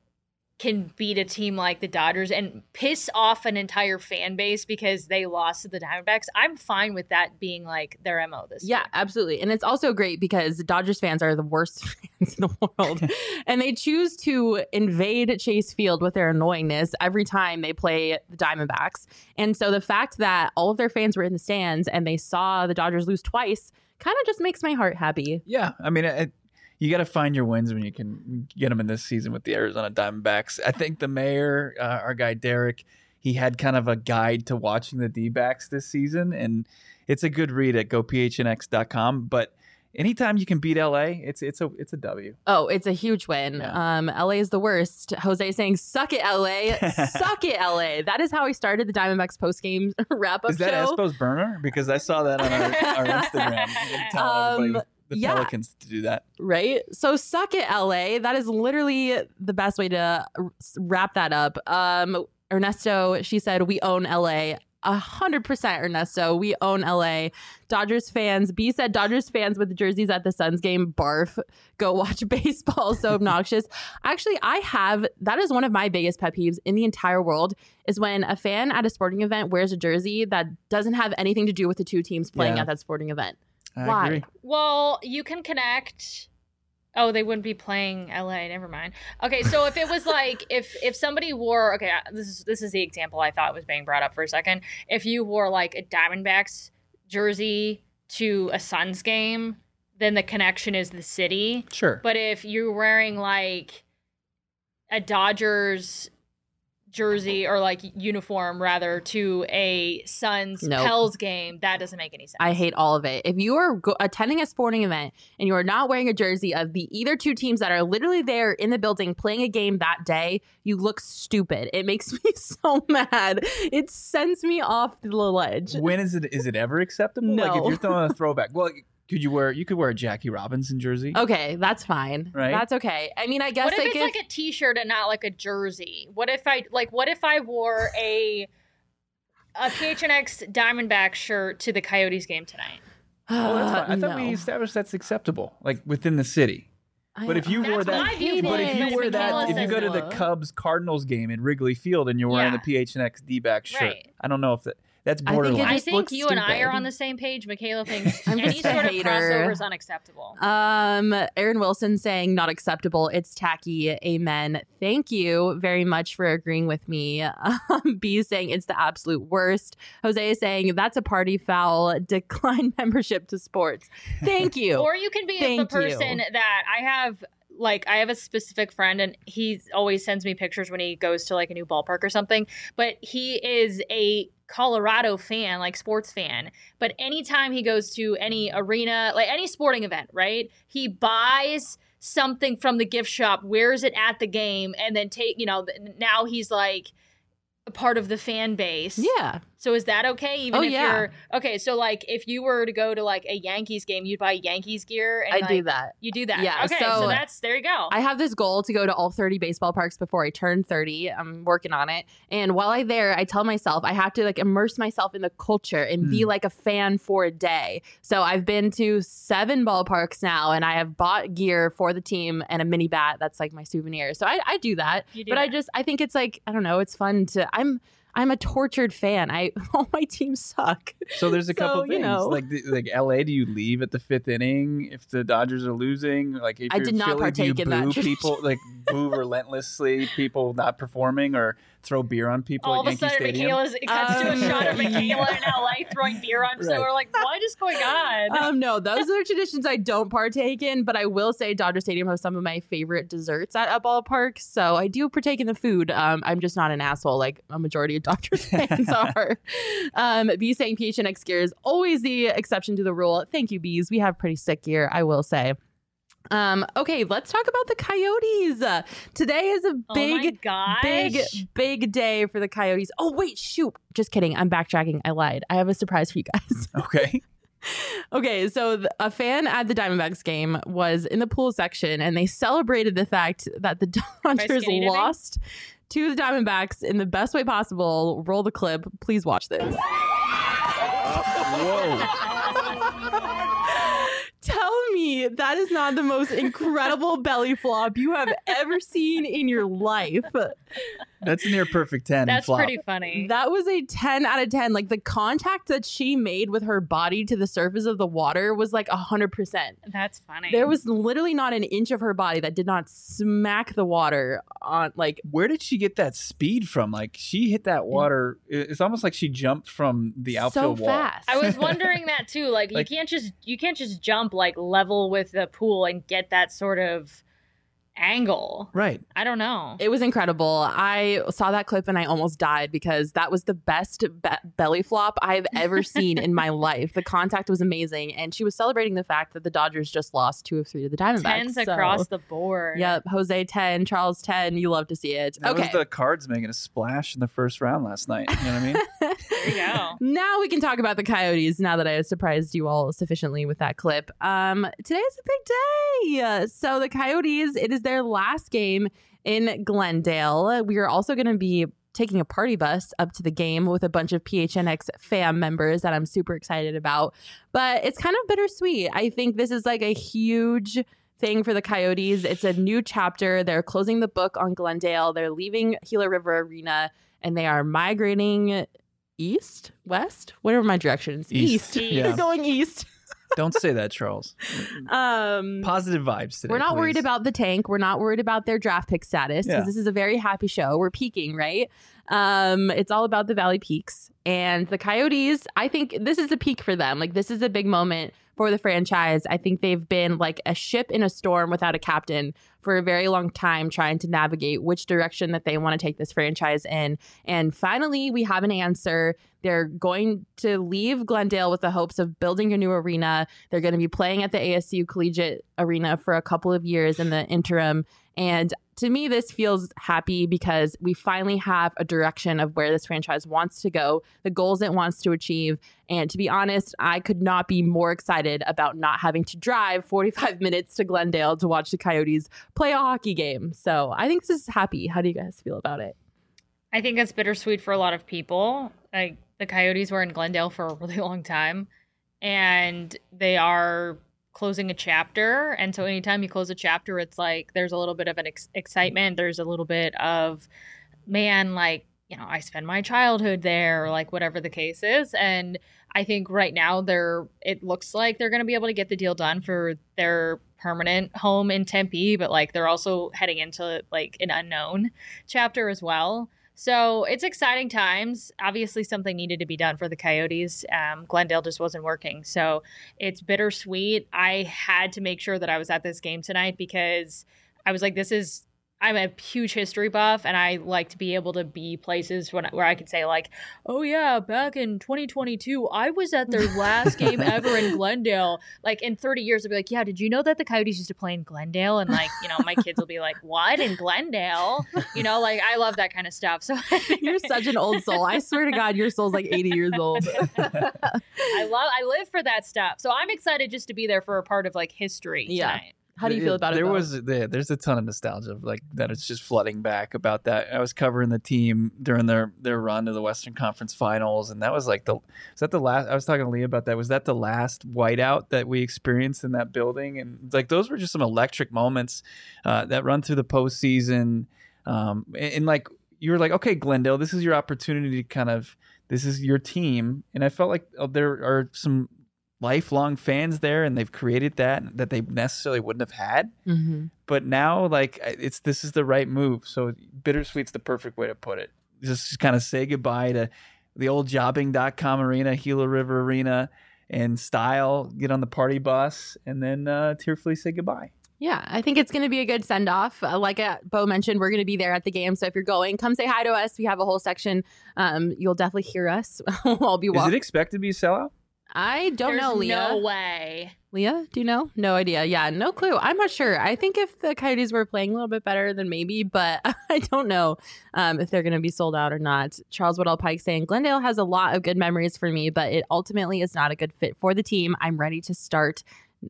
can beat a team like the Dodgers and piss off an entire fan base because they lost to the Diamondbacks. I'm fine with that being like their MO this year. Yeah, absolutely. And it's also great because Dodgers fans are the worst fans in the world. And they choose to invade Chase Field with their annoyingness every time they play the Diamondbacks. And so the fact that all of their fans were in the stands and they saw the Dodgers lose twice kind of just makes my heart happy. Yeah, I mean, you got to find your wins when you can get them in this season with the Arizona Diamondbacks. I think the mayor, our guy Derek, he had kind of a guide to watching the D-backs this season, and it's a good read at gophnx.com. But anytime you can beat LA, it's a W. Oh, it's a huge win. Yeah. LA is the worst. Jose saying, "Suck it, LA, suck it, LA." That is how he started the Diamondbacks post-game wrap-up Is that show. Espo's burner? Because I saw that on our Instagram. Telling everybody the Pelicans to do that. Right? So suck it, LA. That is literally the best way to wrap that up. Ernesto, she said, we own LA. 100% Ernesto. We own LA. Dodgers fans. B said Dodgers fans with jerseys at the Suns game. Barf. Go watch baseball. So obnoxious. Actually, that is one of my biggest pet peeves in the entire world is when a fan at a sporting event wears a jersey that doesn't have anything to do with the two teams playing at that sporting event. I agree. Well, you can connect. Oh, they wouldn't be playing LA. Never mind. Okay, so if it was like if somebody wore this is the example I thought was being brought up for a second. If you wore like a Diamondbacks jersey to a Suns game, then the connection is the city. Sure. But if you're wearing like a Dodgers jersey or like uniform rather to a Suns Pels game, that doesn't make any sense. I hate all of it. If you are attending a sporting event and you are not wearing a jersey of the either two teams that are literally there in the building playing a game that day, you look stupid. It makes me so mad. It sends me off the ledge. When is it ever acceptable? No. Like if you're throwing a throwback, well, you could wear a Jackie Robinson jersey. Okay, that's fine. Right? That's okay. I mean, I guess what if it's like a t-shirt and not like a jersey? What if I wore a PHNX Diamondback shirt to the Coyotes game tonight? Oh, that's fine. I thought we established that's acceptable, like within the city. But if you wore that, if you go to the Cubs Cardinals game at Wrigley Field and you're wearing the PHNX D-back shirt, right. I don't know if That's borderline. I think you and I are on the same page. Michaela thinks I'm any just a sort of hater. crossover is unacceptable. Aaron Wilson saying not acceptable. It's tacky. Amen. Thank you very much for agreeing with me. B saying it's the absolute worst. Jose is saying that's a party foul. Decline membership to sports. Thank you. Or you can be the person that I have a specific friend, and he always sends me pictures when he goes to like a new ballpark or something, but he is a Colorado fan, like sports fan. But anytime he goes to any arena, like any sporting event, right, he buys something from the gift shop, wears it at the game, and then now he's like a part of the fan base. Yeah. So is that okay? Even if you're okay, so like if you were to go to like a Yankees game, you'd buy Yankees gear. And I do that. You do that. Yeah. Okay, so there you go. I have this goal to go to all 30 baseball parks before I turn 30. I'm working on it. And while I'm there, I tell myself I have to like immerse myself in the culture and be like a fan for a day. So I've been to 7 ballparks now, and I have bought gear for the team and a mini bat. That's like my souvenir. So I do that. I think it's like, I don't know, it's fun to, I'm a tortured fan. All my teams suck. So there's a couple things. Like LA, do you leave at the 5th inning if the Dodgers are losing? Like if I did not partake in that. People like boo relentlessly, people not performing, or throw beer on people all at Yankee Stadium. All of a sudden, it cuts to a shot of Michaela in LA throwing beer on. So we're like, what is going on? No, those are traditions I don't partake in, but I will say Dodger Stadium has some of my favorite desserts at a ballpark. So I do partake in the food. I'm just not an asshole like a majority of Dodgers fans are. B saying PHNX gear is always the exception to the rule. Thank you, Bees. We have pretty sick gear, I will say. Okay, let's talk about the Coyotes. Today is a big day for the Coyotes. Oh, wait, shoot. Just kidding. I'm backtracking. I lied. I have a surprise for you guys. Okay, so a fan at the Diamondbacks game was in the pool section, and they celebrated the fact that the Dodgers lost to the Diamondbacks in the best way possible. Roll the clip. Please watch this. Whoa. Tell me that is not the most incredible belly flop you have ever seen in your life. That's near perfect 10. That's flop. pretty funny. That was a 10 out of 10. Like the contact that she made with her body to the surface of the water was like 100%. That's funny. There was literally not an inch of her body that did not smack the water on. Like, where did she get that speed from? Like, she hit that water. It's almost like she jumped from the outfield wall. Fast. I was wondering that too. Like, you can't just jump like level with the pool and get that sort of angle. Right. I don't know. It was incredible. I saw that clip and I almost died because that was the best belly flop I've ever seen in my life. The contact was amazing, and she was celebrating the fact that the Dodgers just lost 2 of 3 to the Diamondbacks. 10s across the board. Yep. Jose 10, Charles 10. You love to see it. That was the Cards making a splash in the first round last night. You know what I mean? There you go. Now we can talk about the Coyotes now that I have surprised you all sufficiently with that clip. Today is a big day. So the Coyotes, it is their last game in Glendale. We are also going to be taking a party bus up to the game with a bunch of PHNX fam members that I'm super excited about. But it's kind of bittersweet. I think this is like a huge thing for the Coyotes. It's a new chapter. They're closing the book on Glendale. They're leaving Gila River Arena, and they are migrating east, west, whatever my directions. East. Yeah. They're going east. Don't say that, Charles. Positive vibes today. We're not please. worried about the tank. We're not worried about their draft pick status because this is a very happy show. We're peaking, right? It's all about the Valley Peaks. And the Coyotes, I think this is a peak for them. Like, this is a big moment for the franchise. I think they've been like a ship in a storm without a captain for a very long time, trying to navigate which direction that they want to take this franchise in. And finally, we have an answer. They're going to leave Glendale with the hopes of building a new arena. They're going to be playing at the ASU Collegiate Arena for a couple of years in the interim. And to me, this feels happy because we finally have a direction of where this franchise wants to go, the goals it wants to achieve. And to be honest, I could not be more excited about not having to drive 45 minutes to Glendale to watch the Coyotes play a hockey game. So I think this is happy. How do you guys feel about it? I think it's bittersweet for a lot of people. Like, the Coyotes were in Glendale for a really long time, and they are closing a chapter. And so anytime you close a chapter, it's like there's a little bit of an excitement. There's a little bit of, man, like, I spend my childhood there, or like whatever the case is. And I think right now it looks like they're going to be able to get the deal done for their permanent home in Tempe, but like they're also heading into like an unknown chapter as well. So it's exciting times. Obviously, something needed to be done for the Coyotes. Glendale just wasn't working. So it's bittersweet. I had to make sure that I was at this game tonight because I was like, I'm a huge history buff, and I like to be able to be places where I can say like, oh yeah, back in 2022, I was at their last game ever in Glendale. Like in 30 years, I'll be like, yeah, did you know that the Coyotes used to play in Glendale? And like, my kids will be like, what, in Glendale? Like I love that kind of stuff. So you're such an old soul. I swear to God, your soul's like 80 years old. I live for that stuff. So I'm excited just to be there for a part of like history tonight. How do you feel about it? There's a ton of nostalgia like that. It's just flooding back about that. I was covering the team during their run to the Western Conference Finals, and that was like was that the last? I was talking to Leah about that. Was that the last whiteout that we experienced in that building? And like those were just some electric moments that run through the postseason. And like you were like, okay, Glendale, this is your opportunity to this is your team, and I felt like there are some lifelong fans there, and they've created that they necessarily wouldn't have had. Mm-hmm. But now, like, this is the right move. So bittersweet's the perfect way to put it. Just kind of say goodbye to the old jobbing.com arena, Gila River Arena, and style, get on the party bus, and then tearfully say goodbye. Yeah, I think it's going to be a good send-off. Like Bo mentioned, we're going to be there at the game. So if you're going, come say hi to us. We have a whole section. You'll definitely hear us. We'll be walking. Is it expected to be a sellout? I don't know, Leah. No way. Leah, do you know? No idea. Yeah, no clue. I'm not sure. I think if the Coyotes were playing a little bit better, then maybe, but I don't know if they're going to be sold out or not. Charles Woodall Pike saying, Glendale has a lot of good memories for me, but it ultimately is not a good fit for the team. I'm ready to start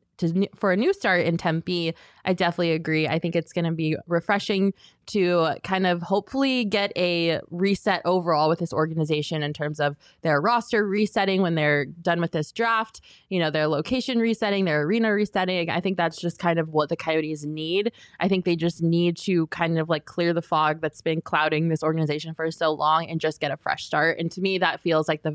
for a new start in Tempe. I definitely agree. I think it's going to be refreshing to kind of hopefully get a reset overall with this organization in terms of their roster resetting when they're done with this draft, their location resetting, their arena resetting. I think that's just kind of what the Coyotes need. I think they just need to kind of like clear the fog that's been clouding this organization for so long and just get a fresh start. And to me, that feels like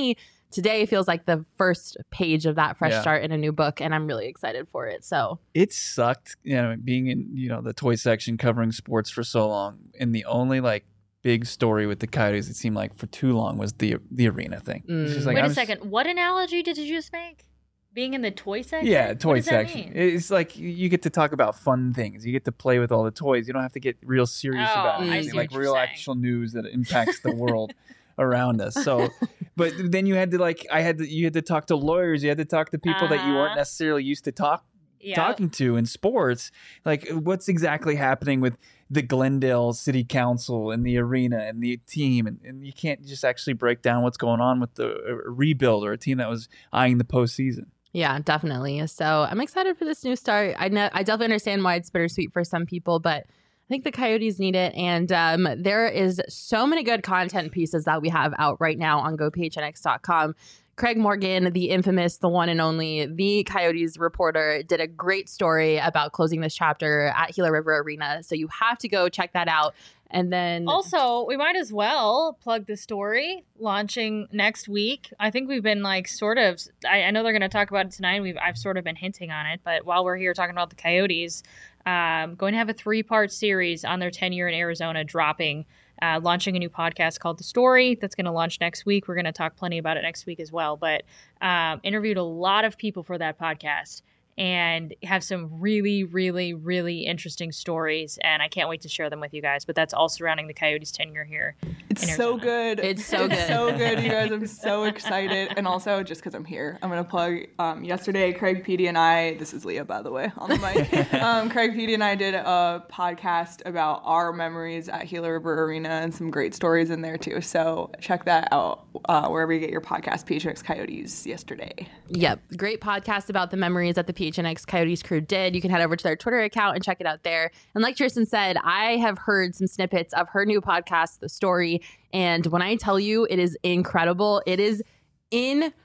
today feels like the first page of that fresh start in a new book, and I'm really excited for it. So it sucked, being in the toy section covering sports for so long, and the only like big story with the Coyotes, it seemed like for too long, was the arena thing. It's just like, wait a second, what analogy did you just make? Being in the toy section? Yeah, toy section. It's like you get to talk about fun things. You get to play with all the toys. You don't have to get real serious about anything, like real actual news that impacts the world around us. So, but then you had to you had to talk to lawyers. You had to talk to people that you weren't necessarily used to talking to in sports. Like, what's exactly happening with the Glendale City Council and the arena and the team, and you can't just actually break down what's going on with the rebuild or a team that was eyeing the postseason. Yeah, definitely. So I'm excited for this new start. I definitely understand why it's bittersweet for some people, but I think the Coyotes need it. And there is so many good content pieces that we have out right now on GoPHNX.com. Craig Morgan, the infamous, the one and only, the Coyotes reporter, did a great story about closing this chapter at Gila River Arena. So you have to go check that out. And then also, we might as well plug the story launching next week. I think we've been like sort of, I know they're going to talk about it tonight. I've sort of been hinting on it, but while we're here talking about the Coyotes, going to have a 3-part series on their tenure in Arizona dropping, launching a new podcast called The Story that's going to launch next week. We're going to talk plenty about it next week as well, but interviewed a lot of people for that podcast and have some really, really, really interesting stories. And I can't wait to share them with you guys. But that's all surrounding the Coyotes' tenure here. It's so good. It's so good. So good, you guys. I'm so excited. And also, just because I'm here, I'm going to plug yesterday, Craig Petey and I, this is Leah, by the way, on the mic. Craig Petey and I did a podcast about our memories at Gila River Arena and some great stories in there, too. So check that out wherever you get your podcast, PHNX Coyotes, yesterday. Yep. Great podcast about the memories that the PHNX Coyotes crew did. You can head over to their Twitter account and check it out there. And like Tristan said, I have heard some snippets of her new podcast, The Story. And when I tell you, it is incredible. It is incredible.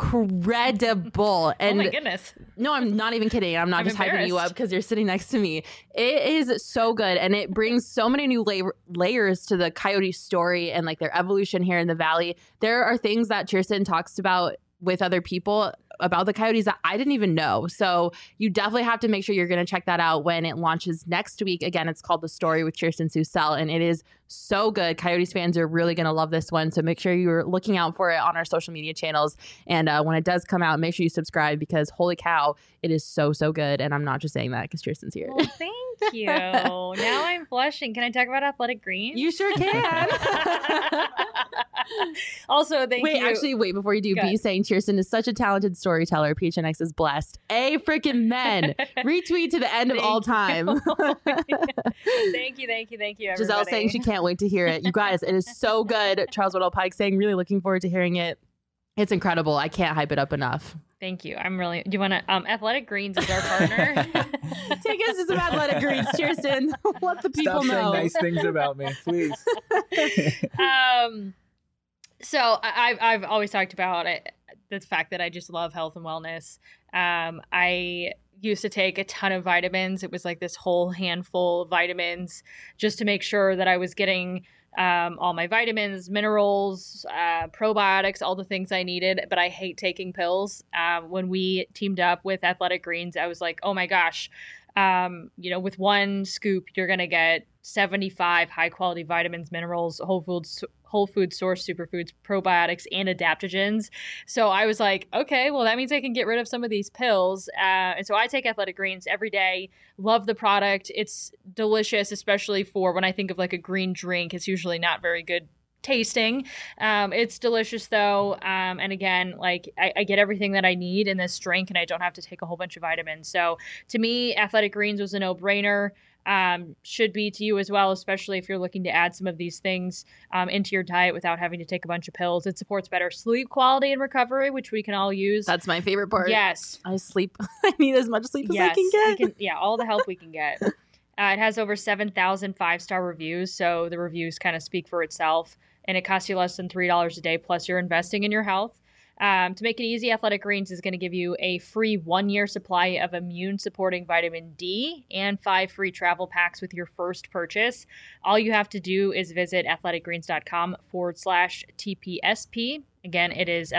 incredible. And oh my goodness. No, I'm not even kidding. I'm not just hyping you up because you're sitting next to me. It is so good. And it brings so many new layers to the Coyote story and like their evolution here in the Valley. There are things that Kirsten talks about with other people about the Coyotes that I didn't even know. So you definitely have to make sure you're going to check that out when it launches next week. Again, it's called The Story with Kirsten Susell, and it is so good. Coyotes fans are really going to love this one. So make sure you're looking out for it on our social media channels. And when it does come out, make sure you subscribe because holy cow, it is so, so good. And I'm not just saying that because Kirsten's here. Well, thank you. Now I'm blushing. Can I talk about Athletic Greens? You sure can. Also, thank you. Wait, before you do, be saying Kirsten is such a talented storyteller. PHNX is blessed. Freaking men. Retweet to the end of all time. Thank you, everybody. Giselle saying she can't wait to hear it. You guys, it is so good. Charles Whittle Pike saying really looking forward to hearing it. It's incredible. I can't hype it up enough. Thank you. I'm really. Do you want to? Athletic Greens is our partner. Take us to some Athletic Greens, Kirsten. Let the people know. Stop saying nice things about me, please. So I've always talked about it, the fact that I just love health and wellness. I used to take a ton of vitamins. It was like this whole handful of vitamins just to make sure that I was getting all my vitamins, minerals, probiotics, all the things I needed. But I hate taking pills. When we teamed up with Athletic Greens, I was like, oh my gosh, with one scoop, you're going to get 75 high quality vitamins, minerals, whole food source superfoods, probiotics, and adaptogens. So I was like, okay, well, that means I can get rid of some of these pills. And so I take Athletic Greens every day. Love the product. It's delicious, especially for when I think of like a green drink. It's usually not very good tasting. It's delicious though. And again, like I get everything that I need in this drink and I don't have to take a whole bunch of vitamins. So to me, Athletic Greens was a no-brainer. Should be to you as well, especially if you're looking to add some of these things into your diet without having to take a bunch of pills. It supports better sleep quality and recovery, which we can all use. That's my favorite part. Yes. I sleep. I need as much sleep as I can get. All the help we can get. It has over 7,000 5-star reviews, so the reviews kind of speak for itself. And it costs you less than $3 a day, plus you're investing in your health. To make it easy, Athletic Greens is going to give you a free 1-year supply of immune-supporting vitamin D and 5 free travel packs with your first purchase. All you have to do is visit athleticgreens.com/TPSP. Again, it is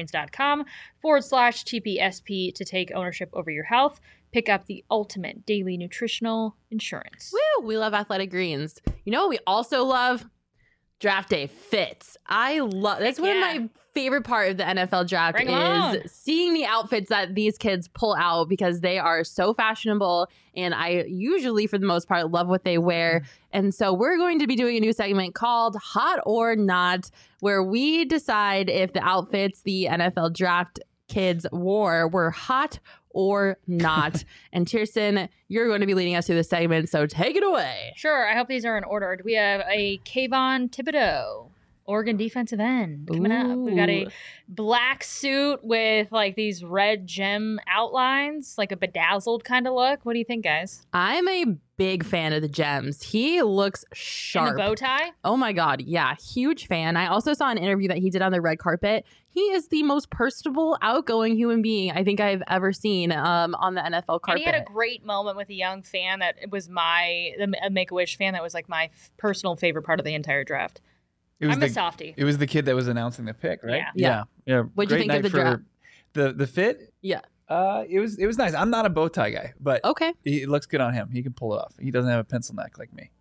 athleticgreens.com/TPSP to take ownership over your health. Pick up the ultimate daily nutritional insurance. Woo! We love Athletic Greens. You know what we also love? Draft day fits. That's one of my favorite part of the NFL draft is seeing the outfits that these kids pull out because they are so fashionable and I usually for the most part love what they wear. And so we're going to be doing a new segment called Hot or Not where we decide if the outfits the NFL draft kids wore were hot or not. And Kirsten, you're going to be leading us through this segment, so take it away. Sure. I hope these are in order. We have a Kayvon Thibodeau, Oregon defensive end, coming up. We got a black suit with like these red gem outlines, like a bedazzled kind of look. What do you think, guys? I'm a big fan of the gems. He looks sharp. And the bow tie? Oh my God. Yeah. Huge fan. I also saw an interview that he did on the red carpet. He is the most personable, outgoing human being I think I've ever seen on the NFL carpet. And he had a great moment with a young fan that was a Make-A-Wish fan that was like my personal favorite part of the entire draft. I'm a softie. It was the kid that was announcing the pick, right? Yeah. What'd you think of the draft? The fit? Yeah. It was nice. I'm not a bow tie guy, but okay, it looks good on him. He can pull it off. He doesn't have a pencil neck like me.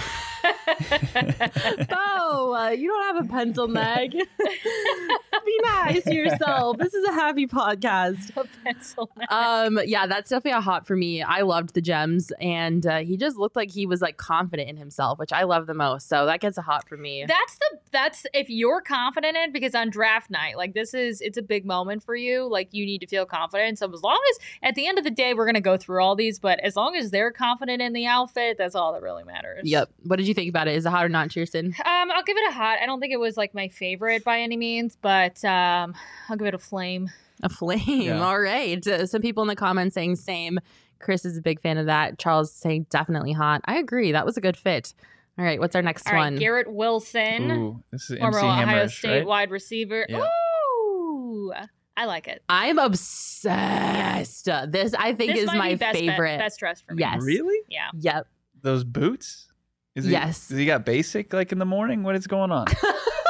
Bo, you don't have a pencil neck. Be nice to yourself. This is a happy podcast. A pencil neck. Yeah, that's definitely a hot for me. I loved the gems, and he just looked like he was like confident in himself, which I love the most. So that gets a hot for me. That's if you're confident in it, because on draft night, like it's a big moment for you. Like you need to feel confident. So as long as at the end of the day, we're gonna go through all these, but as long as they're confident in the outfit, that's all that really matters. Yep. What did you think about it? Is it hot or not, Kirsten? I'll give it a hot. I don't think it was like my favorite by any means, but I'll give it a flame. A flame. Yeah. All right. Some people in the comments saying same. Chris is a big fan of that. Charles saying definitely hot. I agree. That was a good fit. All right. What's our next one? All right. Garrett Wilson. Ooh, this is former MC Ohio Hammers, State right? wide receiver. Yeah. Ooh. I like it. I'm obsessed. This I think This is might my be favorite. best dress for me. Yes. Really? Yeah. Yep. Those boots? Yes. Does he got basic like in the morning? What is going on?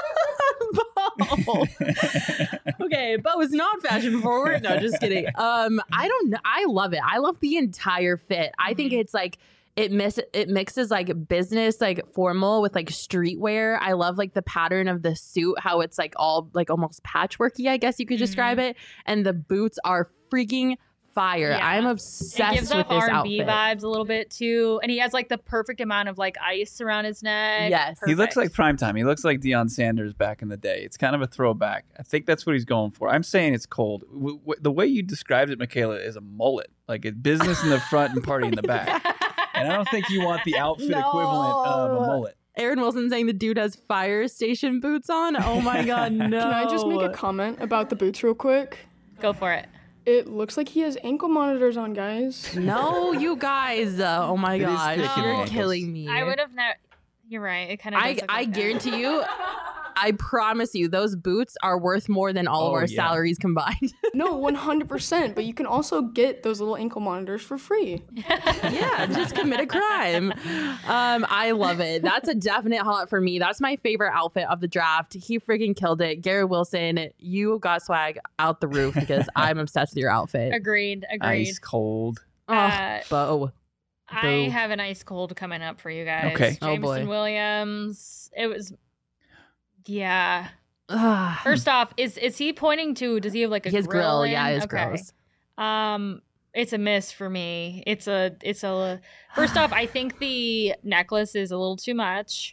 Bo. Okay, Bo is not fashion forward. No, just kidding. I don't know. I love it. I love the entire fit. I think it's like it mixes like business, like formal with like streetwear. I love like the pattern of the suit, how it's like all like almost patchworky, I guess you could describe it. And the boots are freaking fire. Yeah. I'm It obsessed gives with off this R&B outfit. vibes a little bit too, and he has like the perfect amount of like ice around his neck. Yes. He looks like Perfect. primetime. He looks like Deion Sanders back in the day. It's kind of a throwback. I think that's what he's going for. I'm saying it's cold. The way you described it, Michaela, is a mullet. Like it's business in the front and party in the back. And I don't think you want the outfit equivalent of a mullet. Aaron Wilson saying the dude has fire station boots on. Oh my god, no. Can I just make a comment about the boots real quick? Go for it. It looks like he has ankle monitors on, guys. No, you guys. Oh my It is gosh, thick in the you're ankles. killing me. I would have never. You're right. It kind of. I guarantee you, I promise you, those boots are worth more than all of our salaries combined. No, 100%. But you can also get those little ankle monitors for free. Yeah, just commit a crime. I love it. That's a definite hot for me. That's my favorite outfit of the draft. He freaking killed it. Garrett Wilson, you got swag out the roof because I'm obsessed with your outfit. Agreed. Ice cold. Oh, Bo. I have an ice cold coming up for you guys. Okay. Oh, boy. Jameson Williams. It was. Yeah. Ugh. First off, is he pointing to? Does he have like a His grill, in? yeah, his Okay. grills. It's a miss for me. It's a. First off, I think the necklace is a little too much,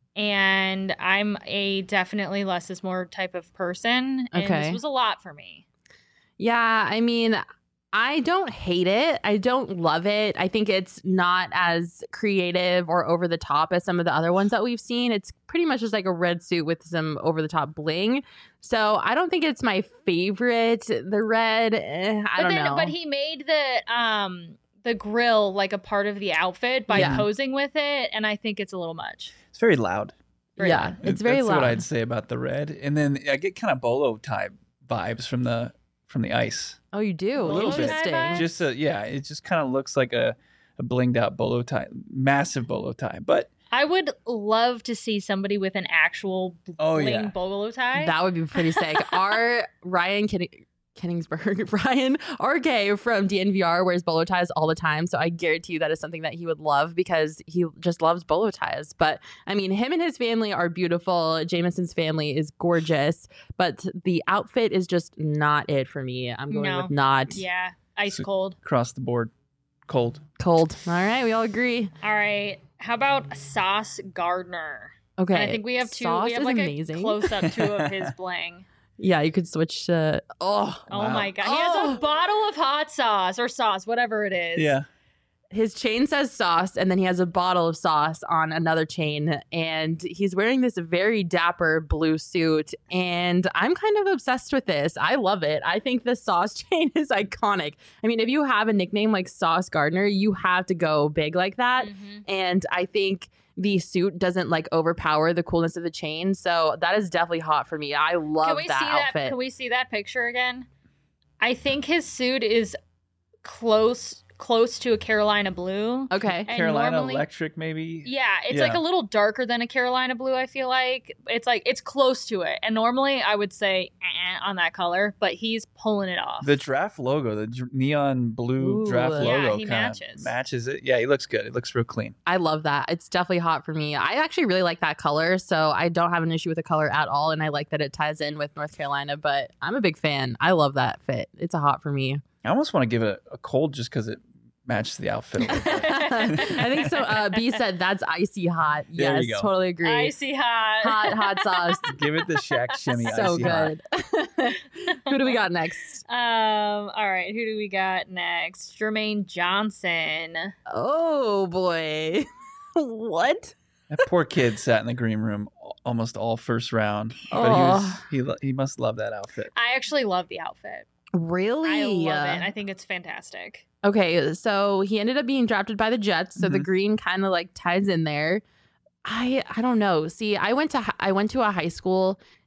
and I'm a definitely less is more type of person, and Okay. this was a lot for me. Yeah, I mean, I don't hate it. I don't love it. I think it's not as creative or over the top as some of the other ones that we've seen. It's pretty much just like a red suit with some over the top bling. So I don't think it's my favorite. The red, I don't know. But he made the grill like a part of the outfit by posing with it, and I think it's a little much. It's very loud. Yeah, it's very That's loud. what I'd say about the red. And then I get kind of bolo type vibes from the ice. Oh, you do? A little bit. Interesting. Just it just kind of looks like a blinged out bolo tie, massive bolo tie. But I would love to see somebody with an actual bling bolo tie. That would be pretty sick. Our Ryan Kenningsberg, Ryan RK from DNVR wears bolo ties all the time. So I guarantee you that is something that he would love because he just loves bolo ties. But I mean, him and his family are beautiful. Jameson's family is gorgeous, but the outfit is just not it for me. I'm going with not. Yeah, ice cold. Across the board, cold. Cold. All right, we all agree. All right. How about Sauce Gardner? Okay. And I think we have two. Sauce We have is like amazing. a close up two of his bling. Yeah, you could switch to. Oh my god, he has a bottle of hot sauce or sauce, whatever it is. Yeah. His chain says sauce, and then he has a bottle of sauce on another chain, and he's wearing this very dapper blue suit, and I'm kind of obsessed with this. I love it. I think the sauce chain is iconic. I mean, if you have a nickname like Sauce Gardner, you have to go big like that, and I think the suit doesn't like overpower the coolness of the chain, so that is definitely hot for me. I love that outfit. Can we see that picture again? I think his suit is close to a Carolina blue. Okay. And Carolina normally- Electric, maybe. Yeah, it's like a little darker than a Carolina blue, I feel like. It's close to it. And normally I would say on that color, but he's pulling it off. The draft logo, the neon blue draft logo, he kind of matches it. Yeah, he looks good. It looks real clean. I love that. It's definitely hot for me. I actually really like that color, so I don't have an issue with the color at all, and I like that it ties in with North Carolina, but I'm a big fan. I love that fit. It's a hot for me. I almost want to give it a cold just because it matches the outfit a little bit. I think so. B said that's icy hot. There Yes, you go. totally agree. Icy hot. Hot sauce. Give it the Shaq shimmy So icy hot. good. Who do we got next? All right, who do we got next? Jermaine Johnson. Oh boy. What? That poor kid sat in the green room almost all first round, but he must love that outfit. I actually love the outfit. Really? I love it. I think it's fantastic. Okay, so he ended up being drafted by the Jets, so the green kind of like ties in there. I don't know. See, I went to a high school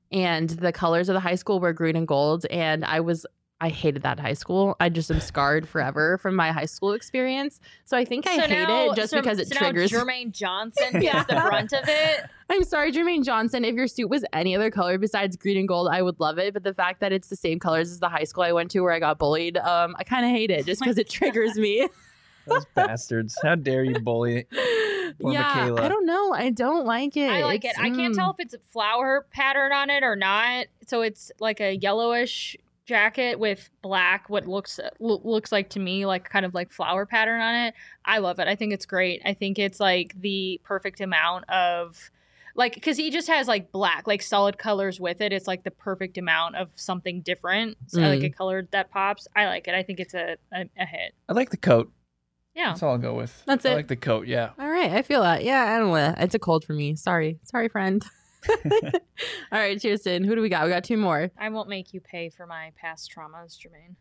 and the colors of the high school were green and gold, and I hated that high school. I just am scarred forever from my high school experience. So I think I hate it just because it triggers. Now Jermaine Johnson gets the brunt of it. I'm sorry, Jermaine Johnson. If your suit was any other color besides green and gold, I would love it. But the fact that it's the same colors as the high school I went to where I got bullied, I kind of hate it just because it triggers me. Those bastards. How dare you bully poor Michaela. I don't know. I don't like it. I like it. I can't tell if it's a flower pattern on it or not. So it's like a yellowish jacket with black, what looks like to me like kind of like flower pattern on it. I love it. I think it's great. I think it's like the perfect amount of like, because he just has like black, like solid colors with it. It's like the perfect amount of something different. So like a color that pops. I like it. I think it's a hit. I like the coat. Yeah. That's all I'll go with. That's it. I like the coat. Yeah. All right. I feel that. Yeah. I don't know. It's a cold for me. Sorry, friend. All right, Kirsten, who do we got? We got 2 more. I won't make you pay for my past traumas, Jermaine.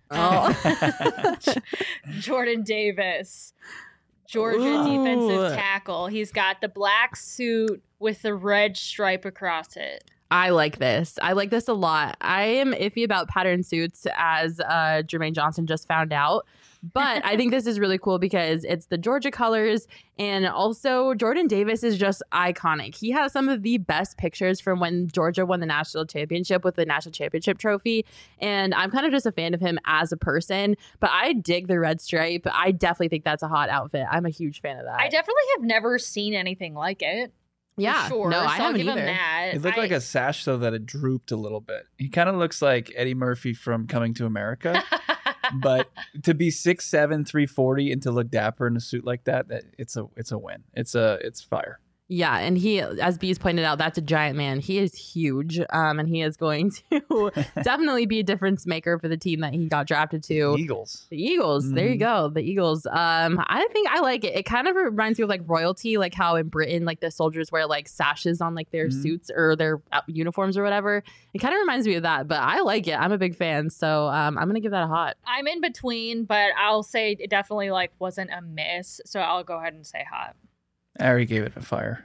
Oh. Jordan Davis, Georgia defensive tackle. He's got the black suit with the red stripe across it. I like this. I like this a lot. I am iffy about pattern suits, as Jermaine Johnson just found out. But I think this is really cool because it's the Georgia colors, and also Jordan Davis is just iconic. He has some of the best pictures from when Georgia won the national championship with the national championship trophy, and I'm kind of just a fan of him as a person, but I dig the red stripe. I definitely think that's a hot outfit. I'm a huge fan of that. I definitely have never seen anything like it. Yeah, sure. No, I so haven't I'll give either. him that. It looked like a sash, though, that it drooped a little bit. He kind of looks like Eddie Murphy from Coming to America. But to be 6'7", 340 and to look dapper in a suit like that, it's a win. It's fire. Yeah, and he, as Bees pointed out, that's a giant man. He is huge, and he is going to definitely be a difference maker for the team that he got drafted to. Eagles. The Eagles. Mm-hmm. There you go. The Eagles. I think I like it. It kind of reminds me of like royalty, like how in Britain, like the soldiers wear like sashes on like their suits or their uniforms or whatever. It kind of reminds me of that, but I like it. I'm a big fan, so I'm gonna give that a hot. I'm in between, but I'll say it definitely like wasn't a miss, so I'll go ahead and say hot. I already gave it a fire.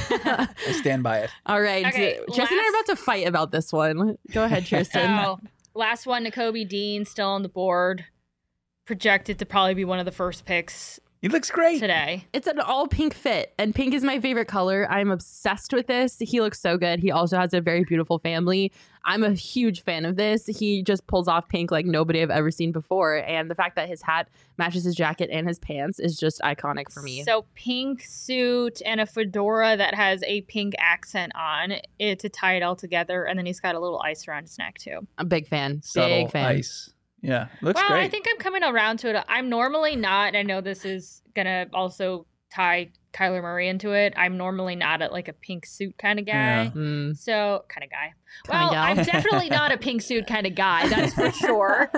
I stand by it. All right. Okay, Tristan and I are about to fight about this one. Go ahead, Tristan. Last one, Nakobe Dean, still on the board. Projected to probably be one of the first picks. He looks great today. It's an all pink fit, and pink is my favorite color. I'm obsessed with this. He looks so good. He also has a very beautiful family. I'm a huge fan of this. He just pulls off pink like nobody I've ever seen before, and the fact that his hat matches his jacket and his pants is just iconic for me. So pink suit and a fedora that has a pink accent on it to tie it all together, and then he's got a little ice around his neck too. I'm a big fan. Subtle big fan. Ice. Yeah, looks well, great. I think I'm coming around to it. I'm normally not, and I know this is gonna also tie Kyler Murray into it. I'm normally not like a pink suit kind of guy. Yeah. So kind of guy. Well, I'm definitely not a pink suit kind of guy. That's for sure.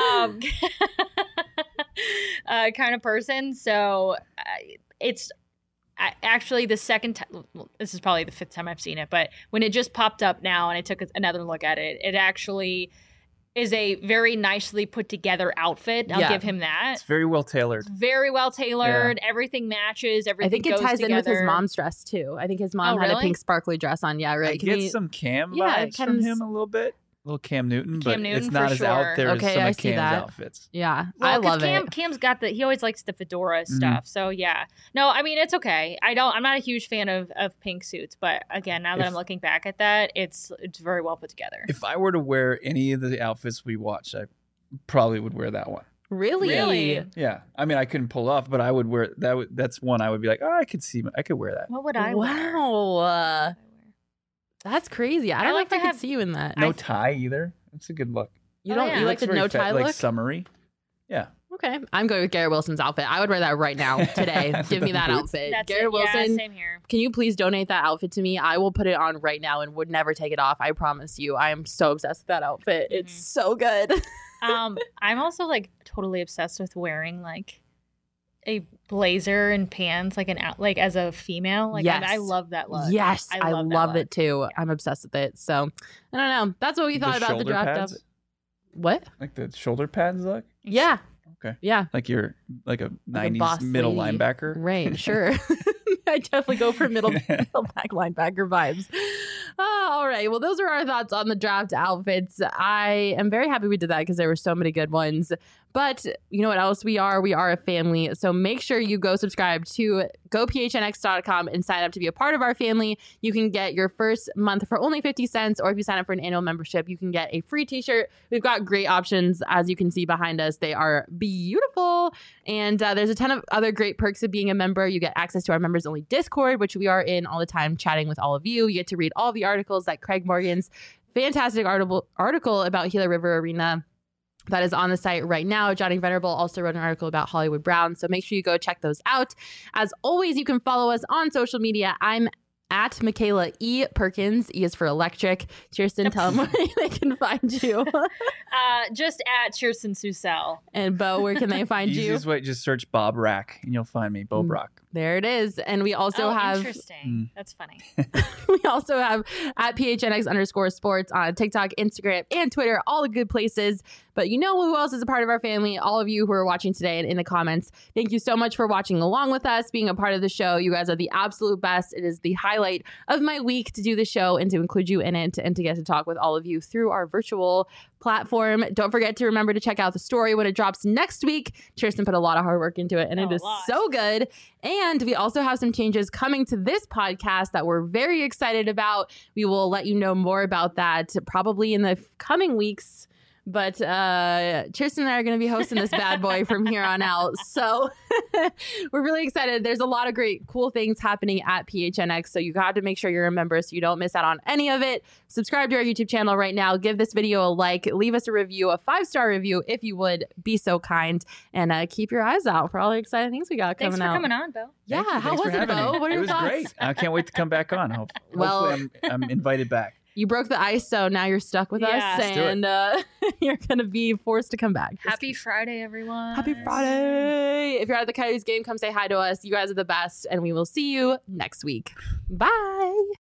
Kind of person. So it's actually the second time. This is probably the 5th time I've seen it, but when it just popped up now and I took another look at it, it actually is a very nicely put together outfit. I'll give him that. It's very well tailored. Very well tailored. Yeah. Everything matches. Everything. I think it ties together. In with his mom's dress too. I think his mom had a pink sparkly dress on. Yeah, right. I get some Cam vibes from him a little bit. A little Cam Newton, but it's not as out there as some of Cam's outfits. Yeah, well, I love it. Cam's got he always likes the fedora stuff. So yeah, no, I mean it's okay. I'm not a huge fan of pink suits, but again, now that I'm looking back at that, it's very well put together. If I were to wear any of the outfits we watched, I probably would wear that one. Really? Yeah. I mean, I couldn't pull off, but I would wear that. That's one I would be like, oh, I could wear that. What would I wear? Wow. That's crazy. I don't know if I could see you in that. No tie either. It's a good look. You don't. You like the no tie look? Like summery. Yeah. Okay. I'm going with Garrett Wilson's outfit. I would wear that right now, today. Give me that outfit. Garrett Wilson. Yeah, same here. Can you please donate that outfit to me? I will put it on right now and would never take it off. I promise you. I am so obsessed with that outfit. Mm-hmm. It's so good. I'm also like totally obsessed with wearing like a blazer and pants, like as a female. Like yes. I love that look. Yes, I love it too. Yeah. I'm obsessed with it. So I don't know. That's what we thought about the draft of. What? Like the shoulder pads look? Yeah. Okay. Yeah. Like you're like a 90s middle linebacker. Right. Sure. I definitely go for middle back linebacker vibes. All right. Well, those are our thoughts on the draft outfits. I am very happy we did that because there were so many good ones. But you know what else we are? We are a family. So make sure you go subscribe to gophnx.com and sign up to be a part of our family. You can get your first month for only 50 cents, or if you sign up for an annual membership, you can get a free t-shirt. We've got great options, as you can see behind us. They are beautiful. And there's a ton of other great perks of being a member. You get access to our members only Discord, which we are in all the time chatting with all of you. You get to read all the articles, like Craig Morgan's fantastic article about Gila River Arena that is on the site right now. Johnny Venerable also wrote an article about Hollywood Brown. So make sure you go check those out. As always, you can follow us on social media. I'm at Michaela E. Perkins. E is for electric. Kirsten, tell them where they can find you. Just at Kirsten Susel. And Bo, where can they find you? Easiest way, just search Bob Rack and you'll find me, Bo Brock. There it is. And we also have... Interesting. That's funny. We also have at PHNX_sports on TikTok, Instagram, and Twitter. All the good places. But you know who else is a part of our family? All of you who are watching today and in the comments. Thank you so much for watching along with us, being a part of the show. You guys are the absolute best. It is the highlight of my week to do the show and to include you in it and to get to talk with all of you through our virtual platform. Don't forget to remember to check out the story when it drops next week. Kirsten put a lot of hard work into it, and it is so good. And we also have some changes coming to this podcast that we're very excited about. We will let you know more about that probably in the coming weeks. But Kirsten and I are going to be hosting this bad boy from here on out. So we're really excited. There's a lot of great, cool things happening at PHNX. So you got to make sure you're a member so you don't miss out on any of it. Subscribe to our YouTube channel right now. Give this video a like. Leave us a review, a 5-star review, if you would be so kind. And keep your eyes out for all the exciting things we got coming out. Thanks for coming on, Bo. Yeah, how was it, Bo? What are your thoughts? It was great. I can't wait to come back on. Hopefully I'm invited back. You broke the ice, so now you're stuck with us, and you're going to be forced to come back. Happy Friday, everyone. Happy Friday. If you're at the Coyotes game, come say hi to us. You guys are the best, and we will see you next week. Bye.